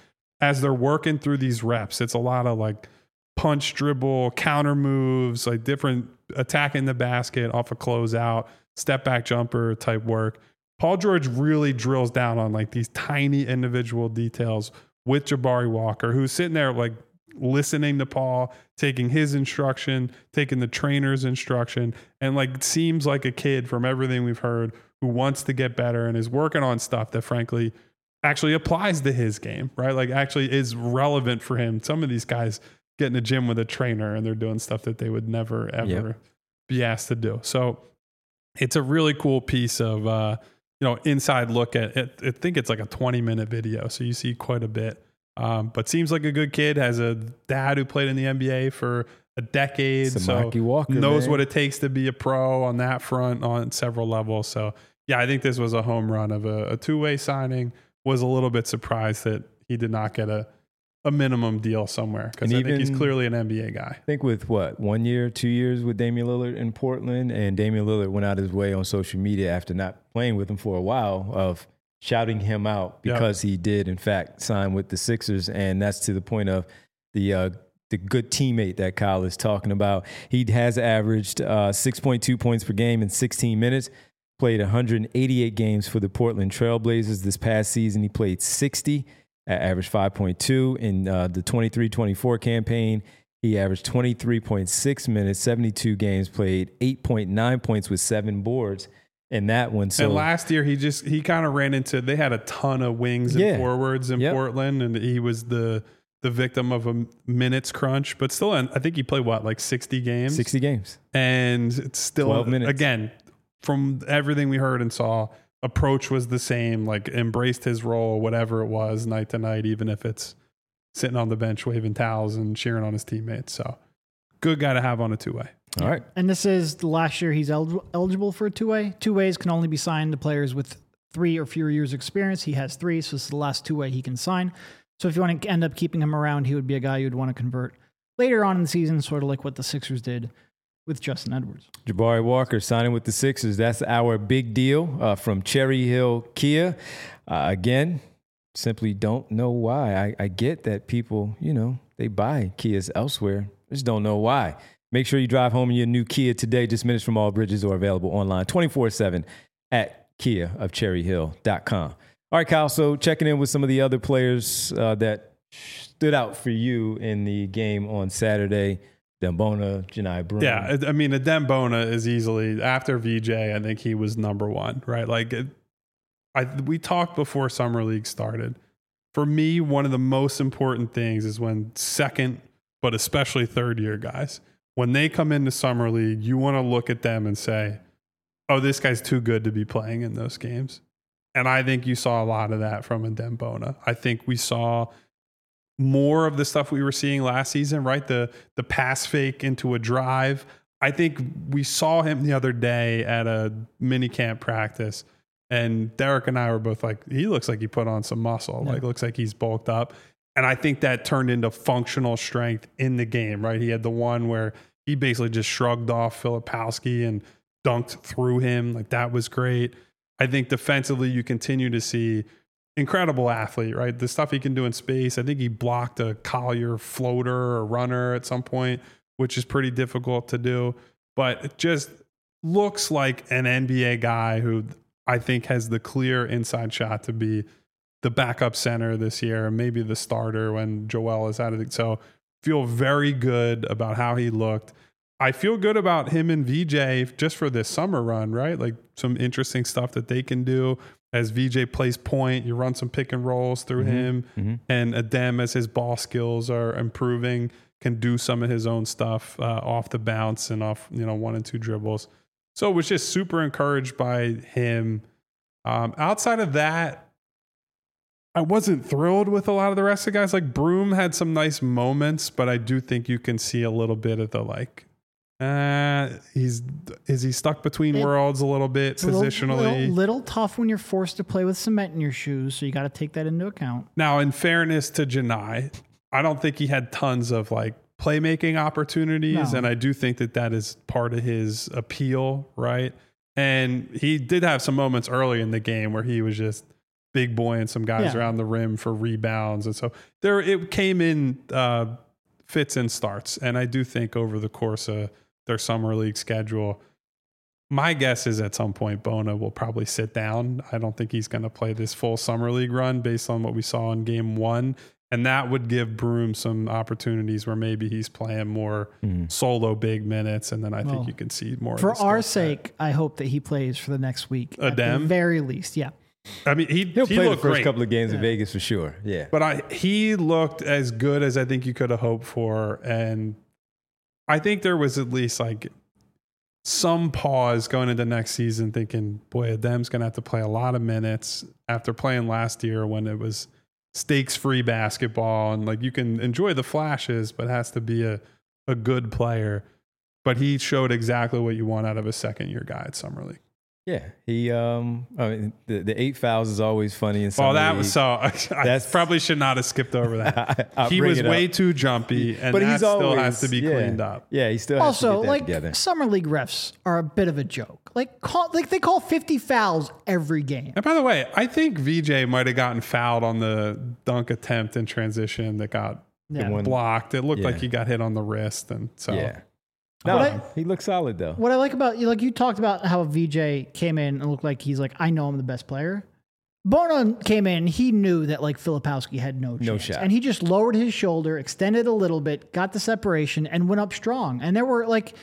as they're working through these reps, it's a lot of like punch, dribble, counter moves, like different attacking the basket off a closeout, step back jumper type work. Paul George really drills down on like these tiny individual details with Jabari Walker, who's sitting there like listening to Paul, taking his instruction, taking the trainer's instruction, and like seems like a kid from everything we've heard who wants to get better and is working on stuff that frankly actually applies to his game, right? Like actually is relevant for him. Some of these guys get in the gym with a trainer and they're doing stuff that they would never, ever yep. be asked to do. So it's a really cool piece of, uh, you know, inside look at it. I think it's like a twenty minute video. So you see quite a bit, um, but seems like a good kid, has a dad who played in the N B A for a decade. Samaki so Walker, knows man. what it takes to be a pro on that front on several levels. So yeah, I think this was a home run of a, a two-way signing. Was a little bit surprised that he did not get a, a minimum deal somewhere, because I even, think he's clearly an N B A guy. I think with what, one year, two years with Damian Lillard in Portland, and Damian Lillard went out his way on social media after not playing with him for a while of shouting him out because yep. he did, in fact, sign with the Sixers. And that's to the point of the uh, the good teammate that Kyle is talking about. He has averaged uh, six point two points per game in sixteen minutes. Played one hundred eighty-eight games for the Portland Trailblazers this past season. He played sixty, averaged five point two. In uh, the twenty-three twenty-four campaign, he averaged twenty-three point six minutes, seventy-two games, played eight point nine points with seven boards in that one. So and last year, he just he kind of ran into, they had a ton of wings and yeah. forwards in yep. Portland, and he was the the victim of a minutes crunch. But still, I think he played, what, like sixty games? sixty games. And it's still, twelve minutes. Again, from everything we heard and saw, approach was the same, like embraced his role, whatever it was, night to night, even if it's sitting on the bench waving towels and cheering on his teammates. So good guy to have on a two-way. All right. And this is the last year he's el- eligible for a two-way. Two-ways can only be signed to players with three or fewer years experience. He has three, so this is the last two-way he can sign. So if you want to end up keeping him around, he would be a guy you'd want to convert later on in the season, sort of like what the Sixers did with Justin Edwards. Jabari Walker signing with the Sixers. That's our big deal uh, from Cherry Hill Kia. Uh, again, simply don't know why. I, I get that people, you know, they buy Kias elsewhere. Just don't know why. Make sure you drive home in your new Kia today, just minutes from all bridges, or available online twenty-four seven at kia of cherry hill dot com. All right, Kyle, so checking in with some of the other players uh, that stood out for you in the game on Saturday. Dembona, Janai Broome. Yeah, I mean, Dembona is easily, after V J, I think he was number one, right? Like, it, I we talked before Summer League started. For me, one of the most important things is when second, but especially third year guys, when they come into Summer League, you want to look at them and say, oh, this guy's too good to be playing in those games. And I think you saw a lot of that from a Dembona. I think we saw more of the stuff we were seeing last season, right? The the pass fake into a drive. I think we saw him the other day at a mini camp practice, and Derek and I were both like, he looks like he put on some muscle, yeah. like looks like he's bulked up. And I think that turned into functional strength in the game, right? He had the one where he basically just shrugged off Filipowski and dunked through him. Like, that was great. I think defensively you continue to see incredible athlete, right? The stuff he can do in space. I think he blocked a Collier floater or runner at some point, which is pretty difficult to do. But it just looks like an N B A guy who I think has the clear inside shot to be the backup center this year, and maybe the starter when Joel is out of it. So feel very good about how he looked. I feel good about him and V J just for this summer run, right? Like some interesting stuff that they can do. As V J plays point, you run some pick and rolls through mm-hmm. him. Mm-hmm. And Adem, as his ball skills are improving, can do some of his own stuff uh, off the bounce and off, you know, one and two dribbles. So it was just super encouraged by him. Um, outside of that, I wasn't thrilled with a lot of the rest of the guys. Like Broome had some nice moments, but I do think you can see a little bit of the like, uh, he's is he stuck between it, worlds a little bit positionally? A little, little, little tough when you're forced to play with cement in your shoes, so you got to take that into account. Now, in fairness to Janai, I don't think he had tons of like playmaking opportunities, no. and I do think that that is part of his appeal, right? And he did have some moments early in the game where he was just big boy and some guys Yeah. around the rim for rebounds. And so there, it came in uh, fits and starts. And I do think over the course of their summer league schedule, my guess is at some point Bona will probably sit down. I don't think he's going to play this full summer league run based on what we saw in game one. And that would give Broom some opportunities where maybe he's playing more mm. solo big minutes. And then I well, think you can see more. For our sake, set. I hope that he plays for the next week. Adem? At the very least, yeah. I mean, he, He'll he play looked the first great. couple of games yeah. in Vegas for sure. Yeah. But I he looked as good as I think you could have hoped for. And I think there was at least like some pause going into next season thinking, boy, Adem's going to have to play a lot of minutes after playing last year when it was stakes-free basketball, and like you can enjoy the flashes, but has to be a, a good player. But he showed exactly what you want out of a second-year guy at Summer League. Yeah, he. Um, I mean, the, the eight fouls is always funny in Summer Oh, that League. was so. I, I probably should not have skipped over that. I, he was way up. too jumpy, and but that he's still always, has to be yeah, cleaned up. Yeah, he still has also to get that like together. Summer League refs are a bit of a joke. Like, call, like they call fifty fouls every game. And by the way, I think V J might have gotten fouled on the dunk attempt in transition that got Yeah. blocked. It looked Yeah. like he got hit on the wrist, and so. Yeah. No, I, he looks solid though. What I like about you, like you talked about how V J came in and looked like he's like, I know I'm the best player. Bona came in, he knew that like Filipowski had no chance. No shot. And he just lowered his shoulder, extended a little bit, got the separation, and went up strong. And there were like,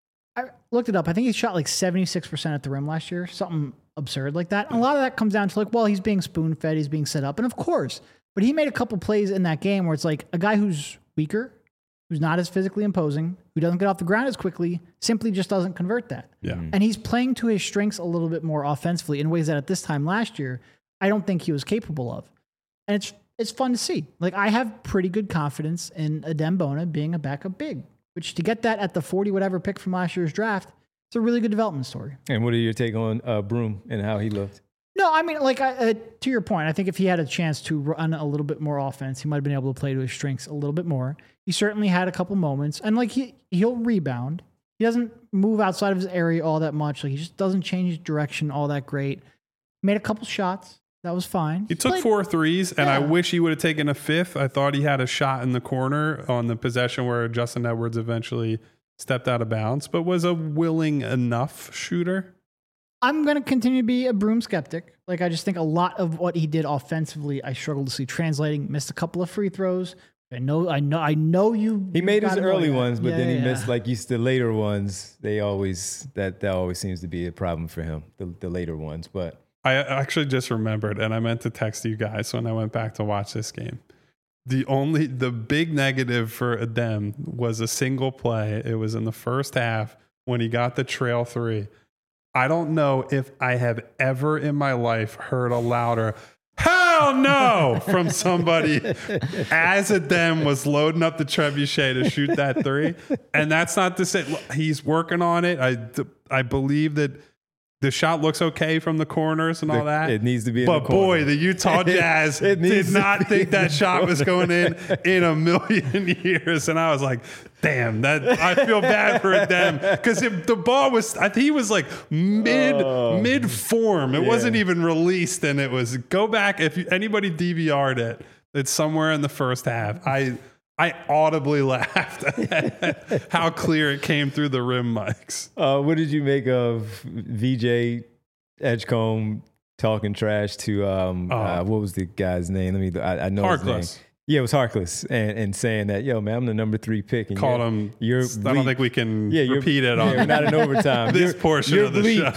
I looked it up. I think he shot like seventy-six percent at the rim last year, something absurd like that. And a lot of that comes down to like, well, he's being spoon fed, he's being set up. And of course, but he made a couple plays in that game where it's like a guy who's weaker, who's not as physically imposing, who doesn't get off the ground as quickly, simply just doesn't convert that. Yeah. Mm-hmm. And he's playing to his strengths a little bit more offensively in ways that at this time last year, I don't think he was capable of. And it's it's fun to see. Like, I have pretty good confidence in Adem Bona being a backup big, which to get that at the forty whatever pick from last year's draft, it's a really good development story. And what are your take on uh, Broom and how he looked? No, I mean, like, I, uh, to your point, I think if he had a chance to run a little bit more offense, he might have been able to play to his strengths a little bit more. He certainly had a couple moments, and like he he'll rebound. He doesn't move outside of his area all that much. Like, he just doesn't change direction all that great. Made a couple shots. That was fine. He took Played- four threes, and Yeah. I wish he would have taken a fifth. I thought he had a shot in the corner on the possession where Justin Edwards eventually stepped out of bounds, but was a willing enough shooter. I'm going to continue to be a Broom skeptic. Like, I just think a lot of what he did offensively, I struggled to see translating. Missed a couple of free throws. I know, I know, I know you. He you made his gotta know early that. ones, but Yeah, then he yeah. missed like used the later ones. They always that that always seems to be a problem for him. The, the later ones, but I actually just remembered, and I meant to text you guys when I went back to watch this game. The only, the big negative for Adem was a single play. It was in the first half when he got the trail three. I don't know if I have ever in my life heard a louder "hell no" from somebody as Adem was loading up the trebuchet to shoot that three. And that's not to say look, he's working on it. I, I believe that the shot looks okay from the corners and all the, that. it needs to be in But the corner. boy, the Utah Jazz It did needs to not be think in that the shot was going in in a million years. And I was like, damn, that I feel bad for them. Because the ball was, I think he was like mid, Oh. mid form. It Yeah. wasn't even released. And it was, go back, if you, anybody D V R'd it, it's somewhere in the first half. I I audibly laughed at how clear it came through the rim mics. Uh, what did you make of V J Edgecombe talking trash to um, Oh. uh, what was the guy's name? Let me. I, I know his name. Harkless. Yeah, it was Harkless, and, and saying that, yo, man, I'm the number three pick. And Called you're, him. You're I don't think we can yeah, you're- repeat it yeah, on we're not in overtime. this You're- portion you're of the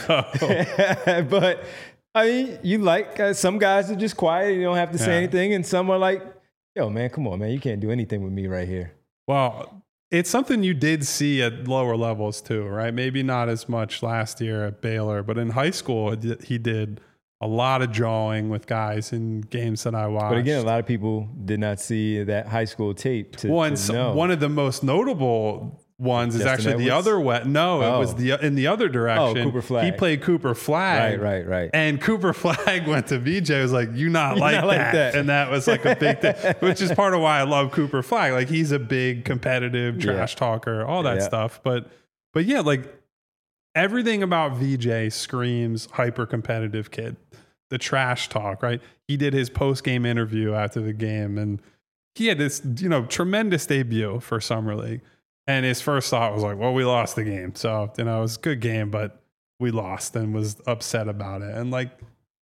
bleep. show. But I mean, you like uh, some guys are just quiet. You don't have to say Yeah. anything, and some are like, yo, man, come on, man, you can't do anything with me right here. Well, it's something you did see at lower levels too, right? Maybe not as much last year at Baylor, but in high school, it did- he did a lot of jawing with guys in games that I watched. But again, a lot of people did not see that high school tape to, one, to know. one of the most notable ones is Justin actually the Edwards? other way. No, Oh. it was the in the other direction. Oh, Cooper Flagg. He played Cooper Flag. Right, right, right. And Cooper Flagg went to V J. Was like, "You not You like, not that. like that. And that was like a big thing, which is part of why I love Cooper Flagg. Like he's a big competitive trash Yeah. talker, all that Yeah. stuff. But but yeah, like everything about V J screams hyper competitive kid. the trash talk, right? He did his post-game interview after the game, and he had this, you know, tremendous debut for Summer League. And his first thought was like, well, we lost the game. So, you know, it was a good game, but we lost, and was upset about it. And like,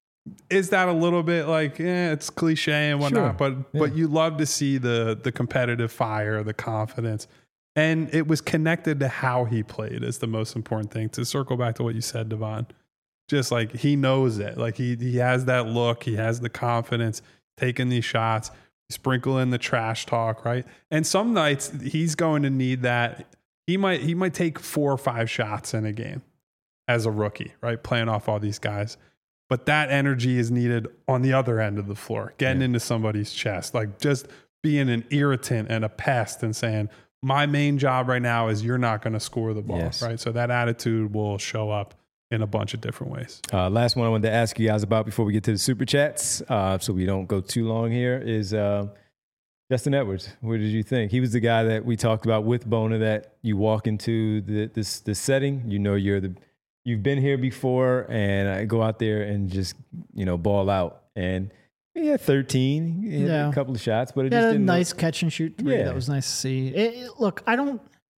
is that a little bit like, eh, it's cliche and whatnot, Sure. but, Yeah. but you love to see the, the competitive fire, the confidence. And it was connected to how he played is the most important thing. To circle back to what you said, Devon, just like he knows it. Like he, he has that look, he has the confidence, taking these shots, sprinkle in the trash talk, right? And some nights he's going to need that. He might, he might take four or five shots in a game as a rookie, right? Playing off all these guys. But that energy is needed on the other end of the floor, getting Yeah. into somebody's chest, like just being an irritant and a pest and saying, my main job right now is you're not going to score the ball, Yes. right? So that attitude will show up in a bunch of different ways. Uh, last one I wanted to ask you guys about before we get to the super chats, uh, so we don't go too long here, is uh, Justin Edwards. What did you think? He was the guy that we talked about with Bona, that you walk into the, this this setting, you know you're the you've been here before, and I go out there and just you know ball out. And he had thirteen, he had Yeah. a couple of shots, but it He just had a didn't nice catch and shoot three. Yeah. That was nice to see. It, it- look, I don't.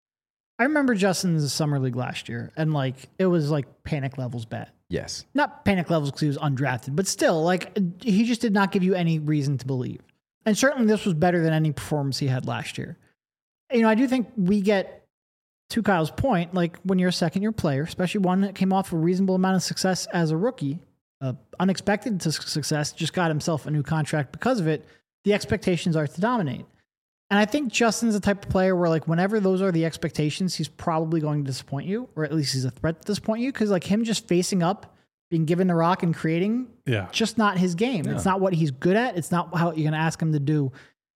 I remember Justin's summer league last year, and like it was like panic levels bad. Yes. Not panic levels because he was undrafted, but still, like he just did not give you any reason to believe. And certainly, this was better than any performance he had last year. You know, I do think we get, to Kyle's point, like when you're a second year player, especially one that came off a reasonable amount of success as a rookie, uh, unexpected to success, just got himself a new contract because of it. The expectations are to dominate. And I think Justin's the type of player where, like, whenever those are the expectations, he's probably going to disappoint you, or at least he's a threat to disappoint you. Because, like, him just facing up, being given the rock and creating, Yeah. just not his game. No. It's not what he's good at. It's not how you're going to ask him to do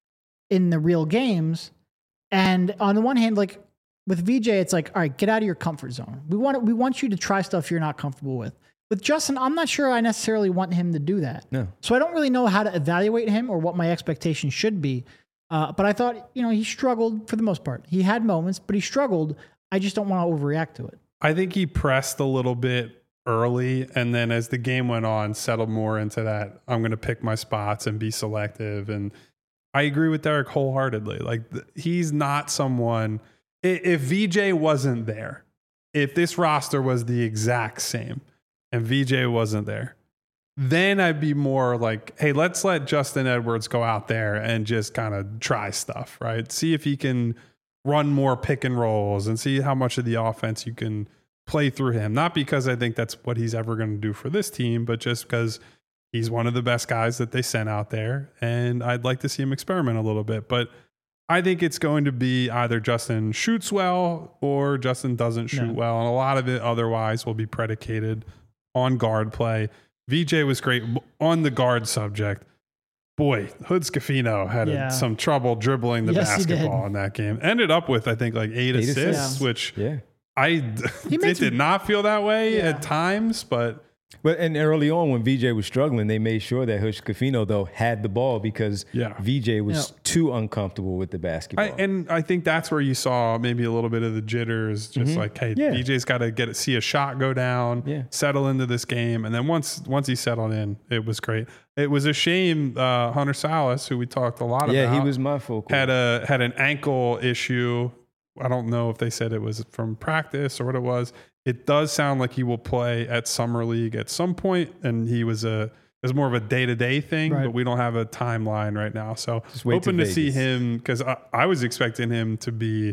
in the real games. And on the one hand, like with V J, it's like, all right, get out of your comfort zone. We want we want you to try stuff you're not comfortable with. With Justin, I'm not sure I necessarily want him to do that. No. So I don't really know how to evaluate him or what my expectations should be. Uh, but I thought, you know, he struggled for the most part. He had moments, but he struggled. I just don't want to overreact to it. I think he pressed a little bit early, and then as the game went on, settled more into that, I'm going to pick my spots and be selective. And I agree with Derek wholeheartedly. Like, th- he's not someone, i- if V J wasn't there, if this roster was the exact same and V J wasn't there, then I'd be more like, hey, let's let Justin Edwards go out there and just kind of try stuff, right? See if he can run more pick and rolls and see how much of the offense you can play through him. Not because I think that's what he's ever going to do for this team, but just because he's one of the best guys that they sent out there. And I'd like to see him experiment a little bit. But I think it's going to be either Justin shoots well or Justin doesn't shoot No. well. And a lot of it otherwise will be predicated on guard play. V J was great on the guard subject. Boy, Hood Scafino had Yeah. a, some trouble dribbling the Yes, he did. basketball in that game. Ended up with, I think, like eight, Eight assists, assists. which Yeah. I He it makes- did not feel that way Yeah. at times, but But and early on when V J was struggling, they made sure that Hush Cafino though had the ball because Yeah. V J was Yeah. too uncomfortable with the basketball. I, and I think that's where you saw maybe a little bit of the jitters, just like, hey, Yeah. V J's got to get see a shot go down, Yeah. settle into this game, and then once once he settled in, it was great. It was a shame uh, Hunter Salas, who we talked a lot about, yeah, he was my focal. had a had an ankle issue. I don't know if they said it was from practice or what it was. It does sound like he will play at Summer League at some point, and he was a it was more of a day to day thing, Right. but we don't have a timeline right now. So Just wait hoping to to see Vegas. him because I, I was expecting him to be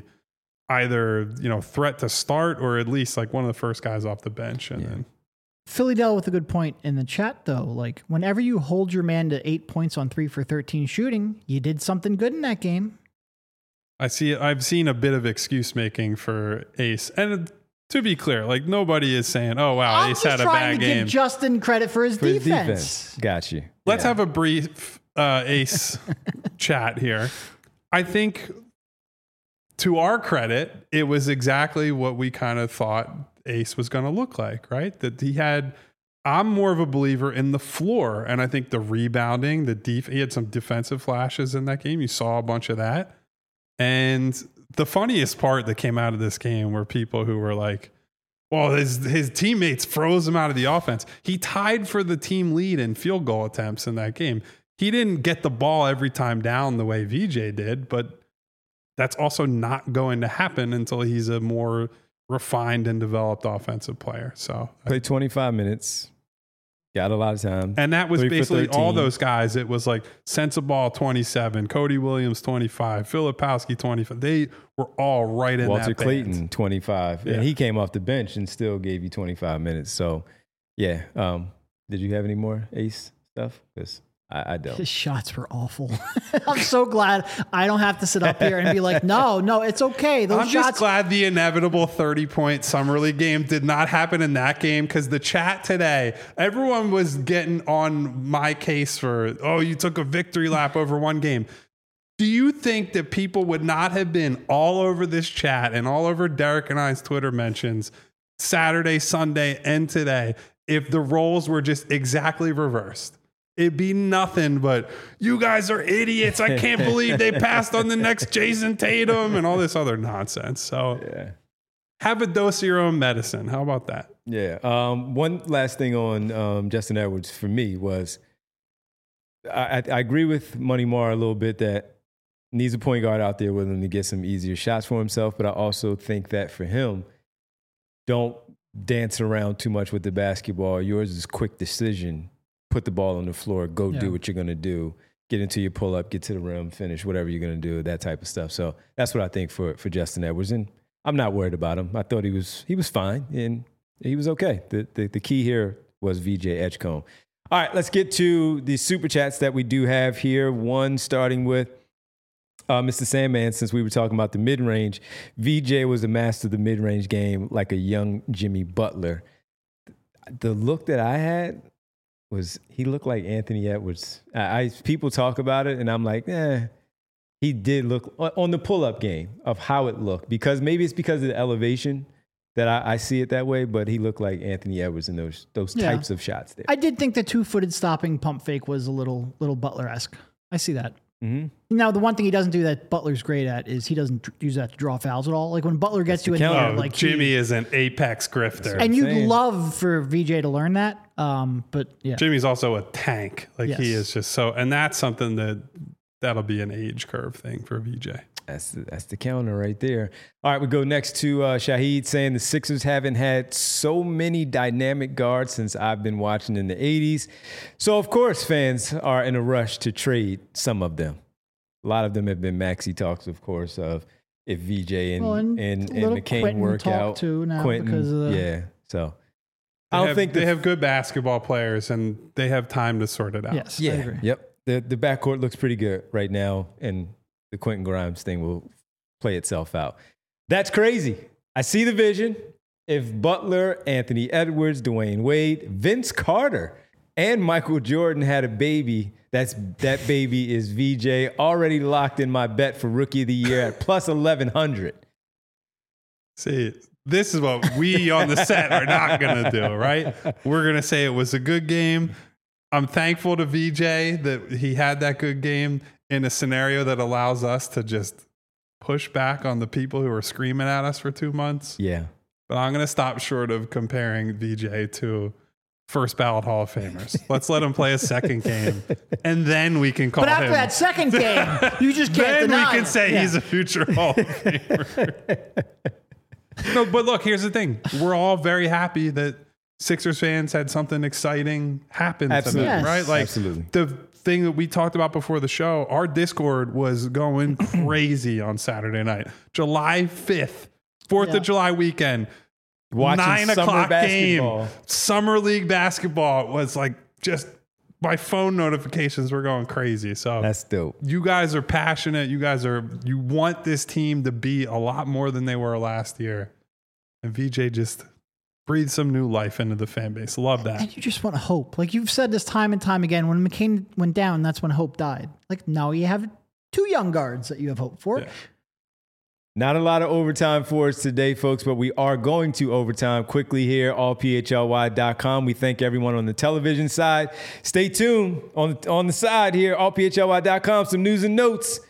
either you know threat to start or at least like one of the first guys off the bench, and Yeah. then Philly Dell with a good point in the chat, though. Like, whenever you hold your man to eight points on three for thirteen shooting, you did something good in that game. I see. I've seen a bit of excuse making for Ace, and to be clear, like nobody is saying, "Oh wow, I'm Ace just had a trying bad to game." give Justin credit for his for his defense. defense. Got you. Let's Yeah. have a brief uh, Ace chat here. I think, to our credit, it was exactly what we kind of thought Ace was going to look like, right? That he had. I'm more of a believer in the floor, and I think the rebounding, the def. He had some defensive flashes in that game. You saw a bunch of that, and the funniest part that came out of this game were people who were like, Well, his his teammates froze him out of the offense. He tied for the team lead in field goal attempts in that game. He didn't get the ball every time down the way V J did, but that's also not going to happen until he's a more refined and developed offensive player. So played twenty-five minutes. Got a lot of time. And that was Three for basically all thirteen. those guys. It was like Sensabaugh twenty-seven, Cody Williams twenty-five, Filipowski twenty-five. They were all right in Walter that Clayton band. twenty-five. Yeah. And he came off the bench and still gave you twenty-five minutes. So, yeah. Um, did you have any more Ace stuff? Because I, I don't. His shots were awful. I'm so glad I don't have to sit up here and be like, no, no, it's okay. Those I'm shots. just glad the inevitable thirty-point Summer League game did not happen in that game, because the chat today, everyone was getting on my case for, oh, you took a victory lap over one game. Do you think that people would not have been all over this chat and all over Derek and I's Twitter mentions Saturday, Sunday, and today if the roles were just exactly reversed? It'd be nothing but, you guys are idiots. I can't believe they passed on the next Jason Tatum and all this other nonsense. So Yeah. have a dose of your own medicine. How about that? Yeah. Um, one last thing on um, Justin Edwards for me was I, I, I agree with Money Mar a little bit that needs a point guard out there with him to get some easier shots for himself. But I also think that for him, don't dance around too much with the basketball. Yours is quick decision. Put the ball on the floor, go Yeah. do what you're going to do. Get into your pull-up, get to the rim, finish whatever you're going to do, that type of stuff. So that's what I think for, for Justin Edwards. And I'm not worried about him. I thought he was he was fine, and he was okay. The, the, the key here was V J Edgecombe. All right, let's get to the Super Chats that we do have here. One starting with uh, Mister Sandman, since we were talking about the mid-range. V J was a master of the mid-range game like a young Jimmy Butler. The look that I had was he looked like Anthony Edwards. I, I people talk about it, and I'm like, eh. He did look on the pull-up game of how it looked, because maybe it's because of the elevation that I, I see it that way. But he looked like Anthony Edwards in those those Yeah. types of shots there. I did think the two-footed stopping pump fake was a little little Butler-esque. I see that. Mm-hmm. Now, the one thing he doesn't do that Butler's great at is he doesn't dr- use that to draw fouls at all. Like when Butler gets the you in counter. there, Oh, like he- Jimmy is an apex grifter. and you'd saying. love for V J to learn that. Um, but yeah, Jimmy's also a tank. Like he Yes. is just so, and that's something that that'll be an age curve thing for V J. That's the, that's the counter right there. All right, we go next to uh, Shahid saying the Sixers haven't had so many dynamic guards since I've been watching in the eighties. So, of course, fans are in a rush to trade some of them. A lot of them have been maxi talks, of course, of if V J and, Well, and and, a and, little McCain Quentin work talk out. too now Quentin, because of the- yeah. So, They I don't have, think they the- have good basketball players and they have time to sort it out. yes, I Yeah. agree. Yep. The the backcourt looks pretty good right now, and the Quentin Grimes thing will play itself out. That's crazy. I see the vision. If Butler, Anthony Edwards, Dwayne Wade, Vince Carter, and Michael Jordan had a baby, that's that baby is V J. Already locked in my bet for Rookie of the Year at plus eleven hundred. See, this is what we on the set are not going to do, right? We're going to say it was a good game. I'm thankful to V J that he had that good game in a scenario that allows us to just push back on the people who are screaming at us for two months. Yeah. But I'm going to stop short of comparing V J to first ballot Hall of Famers. Let's let him play a second game, and then we can call But after him. that second game, you just can't then we deny can it. say Yeah. he's a future Hall of Famer. No, but look, here's the thing. We're all very happy that Sixers fans had something exciting happen Absolutely. to them, Yes. right? Like Absolutely. the thing that we talked about before the show, our Discord was going crazy on Saturday night. July fifth, fourth Yeah. of July weekend. Watching Nine summer o'clock basketball. game. Summer League basketball was like just my phone notifications were going crazy. So That's dope. you guys are passionate. You guys are, you want this team to be a lot more than they were last year. And V J just breathed some new life into the fan base. Love that. And you just want hope. Like you've said this time and time again. When McCain went down, that's when hope died. Like now you have two young guards that you have hope for. Yeah. Not a lot of overtime for us today, folks, but we are going to overtime quickly here, all P H L Y dot com. We thank everyone on the television side. Stay tuned on, on the side here, all P H L Y dot com. Some news and notes.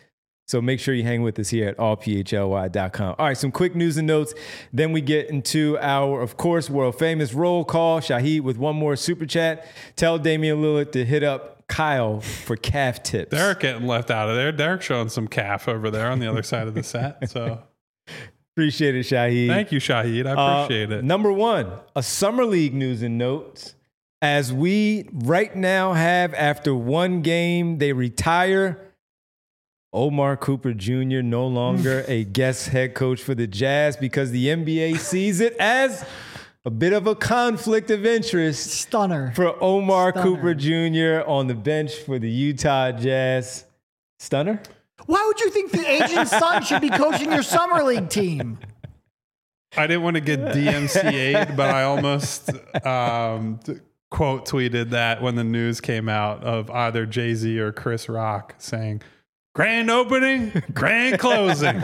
So make sure you hang with us here at all p h l y dot com. All right, some quick news and notes. Then we get into our, of course, world famous roll call. Shahid with one more super chat. Tell Damian Lillard to hit up Kyle for calf tips. Derek getting left out of there. Derek showing some calf over there on the other side of the set. So appreciate it, Shahid. Thank you, Shahid. I appreciate uh, it. Number one, a summer league news and notes. As we right now have, after one game, they retire. Omar Cooper Junior no longer a guest head coach for the Jazz because the N B A sees it as a bit of a conflict of interest. Stunner. For Omar Stunner. Cooper Junior on the bench for the Utah Jazz. Stunner? Why would you think the agent's son should be coaching your summer league team? I didn't want to get D M C A'd, but I almost um, quote tweeted that when the news came out of either Jay-Z or Chris Rock saying, grand opening, grand closing.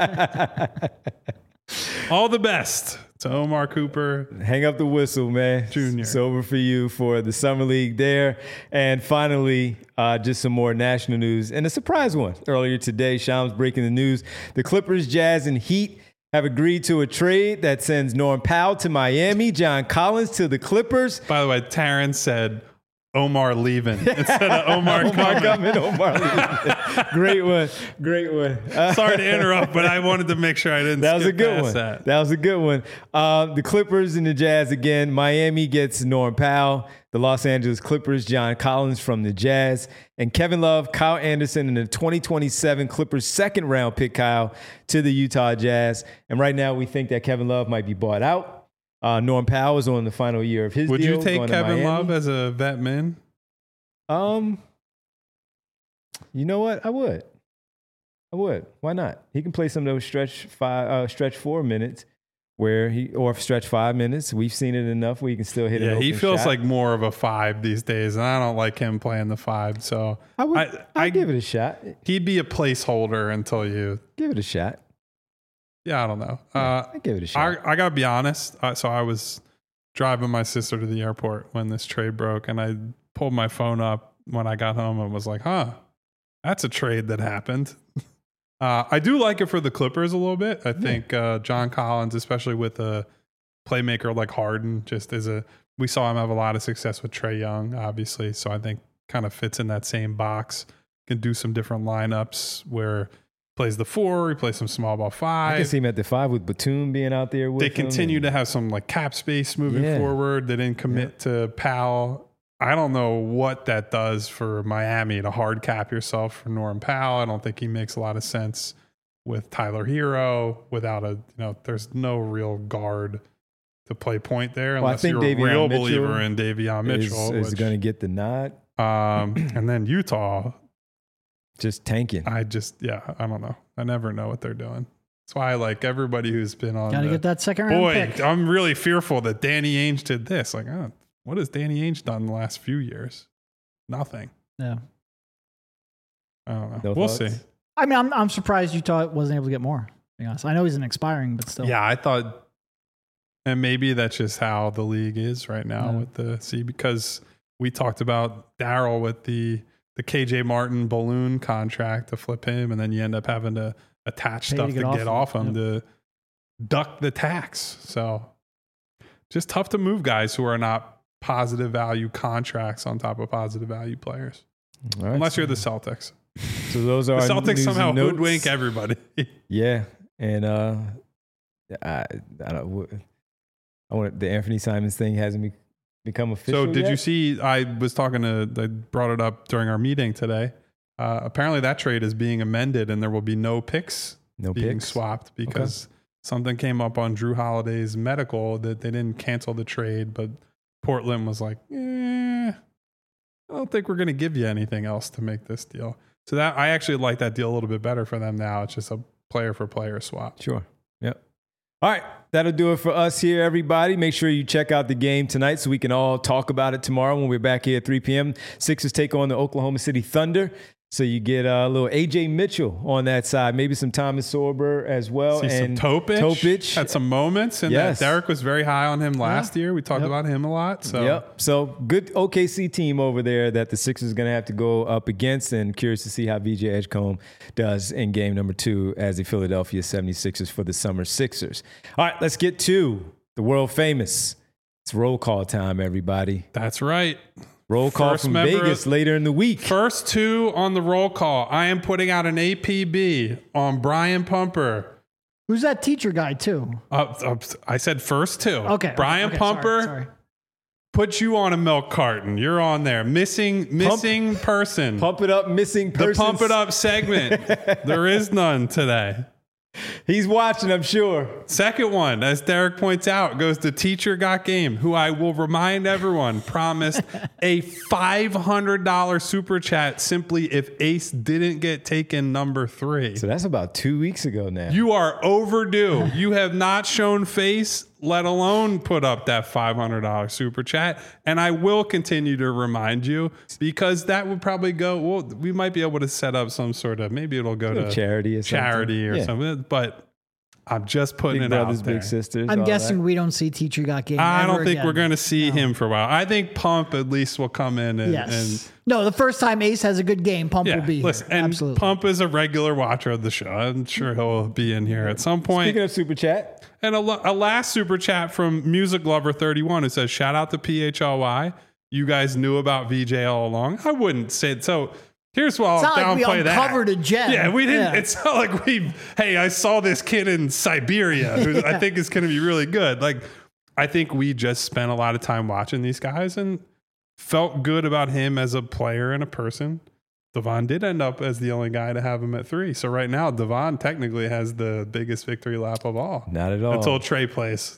All the best to Omar Cooper. Hang up the whistle, man. Junior. It's over for you for the Summer League there. And finally, uh, just some more national news and a surprise one. Earlier today, Shams breaking the news. The Clippers, Jazz, and Heat have agreed to a trade that sends Norm Powell to Miami, John Collins to the Clippers. By the way, Taryn said Omar leaving instead of Omar, Omar coming. coming, Omar leaving. Great one. Great one. Uh, Sorry to interrupt, but I wanted to make sure I didn't That was a skip good past one. That. That was a good one. Um, the Clippers and the Jazz again. Miami gets Norm Powell. The Los Angeles Clippers, John Collins from the Jazz. And Kevin Love, Kyle Anderson, and the twenty twenty-seven Clippers second round pick, Kyle, to the Utah Jazz. And right now we think that Kevin Love might be bought out. Uh, Norm Powell is on the final year of his Would deal. you take going to Kevin Miami. Love as a vet min? Um, you know what? I would. I would. Why not? He can play some of those stretch five, uh, stretch four minutes, where he or stretch five minutes. We've seen it enough where he can still hit it. Yeah, he feels shot. like more of a five these days, and I don't like him playing the five. So I would. I, I, I give it a shot. He'd be a placeholder until you. Give it a shot. Yeah, I don't know. Yeah, Uh, I give it a shot. I, I gotta be honest. Uh, so I was driving my sister to the airport when this trade broke, and I pulled my phone up when I got home and was like, "Huh, that's a trade that happened." uh, I do like it for the Clippers a little bit. I think uh, John Collins, especially with a playmaker like Harden, just is a. We saw him have a lot of success with Trae Young, obviously. So I think kind of fits in that same box. Can do some different lineups where. Plays the four, he plays some small ball five. I can see him at the five with Batum being out there with They him continue and- to have some like cap space moving Yeah. forward. They didn't commit to Powell. I don't know what that does for Miami to hard cap yourself for Norm Powell. I don't think he makes a lot of sense with Tyler Hero without a, you know, there's no real guard to play point there Well, I unless think you're a Davion real Mitchell believer in Davion Mitchell. is, is which, going to get the nod. um, and then Utah, Just tanking. I just, yeah, I don't know. I never know what they're doing. That's why I like everybody who's been on. Got to the- get that second round Boy, pick. I'm really fearful that Danny Ainge did this. Like, oh, what has Danny Ainge done in the last few years? Nothing. Yeah. I don't know. No we'll thoughts? see. I mean, I'm I'm surprised Utah wasn't able to get more. To be honest, I know he's an expiring, but still. Yeah, I thought, and maybe that's just how the league is right now Yeah. with the see because we talked about Daryl with the the K J Martin balloon contract to flip him, and then you end up having to attach Pay stuff to to get get, off off him. him to duck the tax. So just tough to move guys who are not positive value contracts on top of positive value players, All right. unless you're the Celtics. So those are The our Celtics news somehow and notes. hoodwink everybody. Yeah, and uh, I I don't. I want the Anthony Simons thing hasn't be, become official. So did yet? you see? I was talking to. I brought it up during our meeting today. Uh, apparently, that trade is being amended, and there will be no picks no being picks? swapped because something came up on Drew Holiday's medical that they didn't cancel the trade, but Portland was like, eh, I don't think we're going to give you anything else to make this deal. So that I actually like that deal a little bit better for them now. It's just a player for player swap. Sure. Yep. All right. That'll do it for us here, everybody. Make sure you check out the game tonight so we can all talk about it tomorrow when we're back here at three p.m. Sixers take on the Oklahoma City Thunder. So you get a little A J Mitchell on that side, maybe some Thomas Sorber as well. See and some Topich. Topich. Had some moments. And Yes. that Derek was very high on him last year. We talked Yep. about him a lot. So Yep. So good O K C team over there that the Sixers are going to have to go up against, and curious to see how V J Edgecombe does in game number two as the Philadelphia seventy-sixers for the Summer Sixers. All right, let's get to the world famous. It's roll call time, everybody. that's right. Roll call First from member Vegas of- later in the week. First two on the roll call. I am putting out an A P B on Brian Pumper. Who's that teacher guy too? Uh, uh, I said first two. Okay. Brian okay, Pumper. Sorry, sorry. Put you on a milk carton. You're on there. Missing missing person. Pump it up, missing the person. pump it up segment. There is none today. He's watching, I'm sure. Second one, as Derek points out, goes to Teacher Got Game, who I will remind everyone promised a five hundred dollars super chat simply if Ace didn't get taken number three. So that's about two weeks ago now. You are overdue. You have not shown face, let alone put up that five hundred dollars super chat. And I will continue to remind you because that would probably go, well, we might be able to set up some sort of, maybe it'll go to charity or something. charity or Yeah. something. But I'm just putting Big it brothers, out there. big sisters. I'm all guessing that. we don't see teacher got game. I ever don't think again. we're going to see him for a while. I think Pump at least will come in and, Yes. and no, the first time Ace has a good game, Pump yeah, will be listen, here. and Absolutely. Pump is a regular watcher of the show. I'm sure he'll be in here at some point. Speaking of super chat, And a, lo- a last super chat from Music Lover thirty-one who says, shout out to P H L Y. You guys knew about V J all along. I wouldn't say it. So here's why I'll It's not like we downplay that. uncovered a gem. Yeah, we didn't. Yeah. It's not like we, hey, I saw this kid in Siberia who I think is going to be really good. Like, I think we just spent a lot of time watching these guys and felt good about him as a player and a person. Devon did end up as the only guy to have him at three. So right now, Devon technically has the biggest victory lap of all. not at all. Until Trey plays.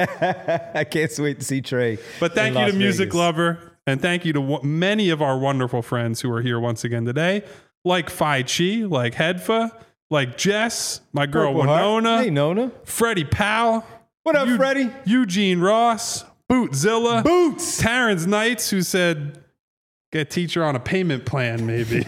I can't wait to see Trey. But thank in you Las to Music Vegas. Lover. And thank you to w- many of our wonderful friends who are here once again today, like Phi Chi, like Hedfa, like Jess, my girl Purple Heart. Winona, Hey, Nona. Freddie Powell. What up, Eu- Freddie? Eugene Ross, Bootzilla, Boots. Terrence Knights, who said, get teacher on a payment plan, maybe.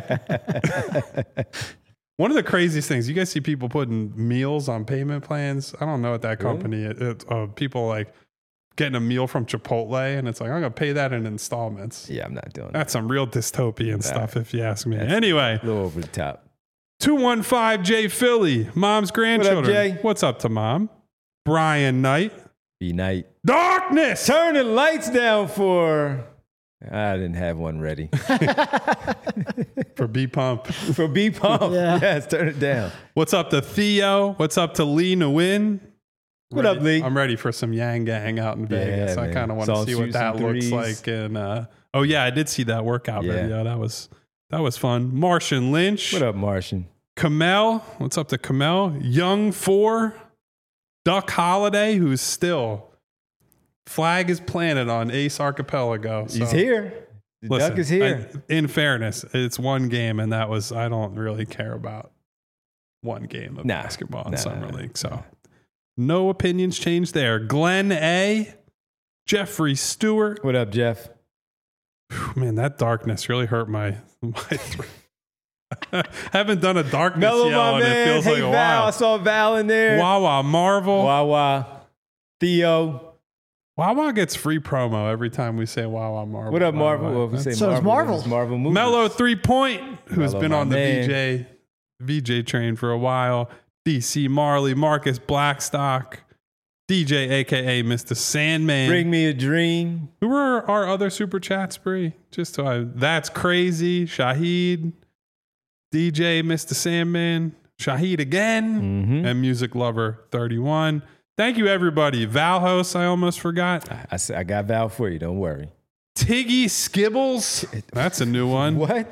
One of the craziest things, you guys see people putting meals on payment plans. I don't know what that company is. It, uh, people like getting a meal from Chipotle, and it's like, I'm going to pay that in installments. Yeah, I'm not doing that. That's some real dystopian stuff, if you ask me. Anyway, A little over the top. two one five J Philly, mom's grandchildren. Jay? What's up to mom? Brian Knight. Be night. Darkness. Turn the lights down for. I didn't have one ready. For B Pump. For B Pump. Yeah. Yes, turn it down. What's up to Theo? What's up to Lee Nguyen? What Ready- up, Lee? I'm ready for some Yang Gang out in Vegas. I man. kind of want Saw to him see shoot what that some looks threes. like. And uh, oh yeah, I did see that workout Yeah. video. That was that was fun. Martian Lynch. What up, Martian? Kamel. What's up to Kamel? Young Four. Duck Holiday, who's still flag is planted on Ace Archipelago. He's so- here. The Listen, duck is here. I- in fairness, it's one game, and that was I don't really care about one game of Nah. basketball in Nah, summer nah, league. So no opinions changed there. Glenn A, Jeffrey Stewart. What up, Jeff? Whew, man, that darkness really hurt my my throat. Haven't done a darkness Mellow, yell, my and it man. feels Hey, like a Val. I while. saw Val in there. Wawa Marvel. Wawa. Theo. Wawa gets free promo every time we say Wawa Marvel. What up, by the Marvel? way. Well, if we say So does Marvel, Marvel. then it's Marvel movies. Mellow Three Point, who's Mellow, been my on the man. V J V J train for a while. D C Marley, Marcus Blackstock, D J aka Mister Sandman. Bring me a dream. Who were our other super chats, Bree? Just so I, that's crazy. Shahid, D J Mister Sandman, Shahid again, Mhm. and Music Lover thirty-one. Thank you, everybody. Valhos, I almost forgot. I, I, said- I got Val for you. Don't worry. Tiggy Skibbles. That's a new one. What?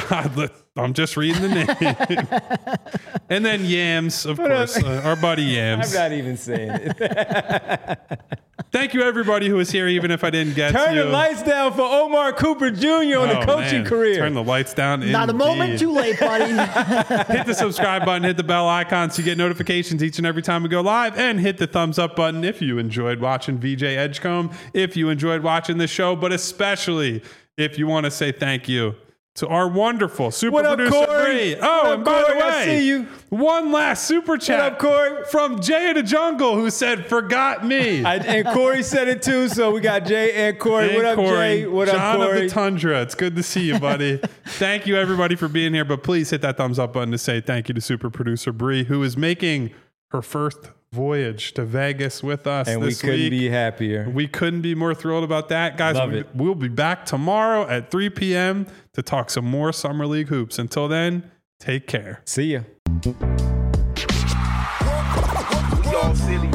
I'm just reading the name. And then Yams, of What up? course, uh, our buddy I'm Yams. not even saying it. Thank you, everybody who was here, even if I didn't get Turn to the lights down for Omar Cooper Junior on the Oh, coaching man. career. Turn the lights down. Not a moment indeed. too late, buddy. Hit the subscribe button, hit the bell icon so you get notifications each and every time we go live, and hit the thumbs up button if you enjoyed watching V J Edgecombe, if you enjoyed watching this show, but especially if you want to say thank you to our wonderful super What up, producer Corey? Bree. Oh, What up, and by Corey? the way, I see you. one last super chat up, Corey? from Jay of the Jungle, who said, "Forgot me." I, and Corey said it too, so we got Jay and Corey. And What up, Corey, Jay? What John up, Corey? of the Tundra. It's good to see you, buddy. Thank you, everybody, for being here. But please hit that thumbs up button to say thank you to super producer Bree, who is making her first voyage to Vegas with us And we this couldn't week. be happier. We couldn't be more thrilled about that. Guys, Love we, it. we'll be back tomorrow at three p.m. to talk some more Summer League hoops. Until then, take care. See ya. We all silly.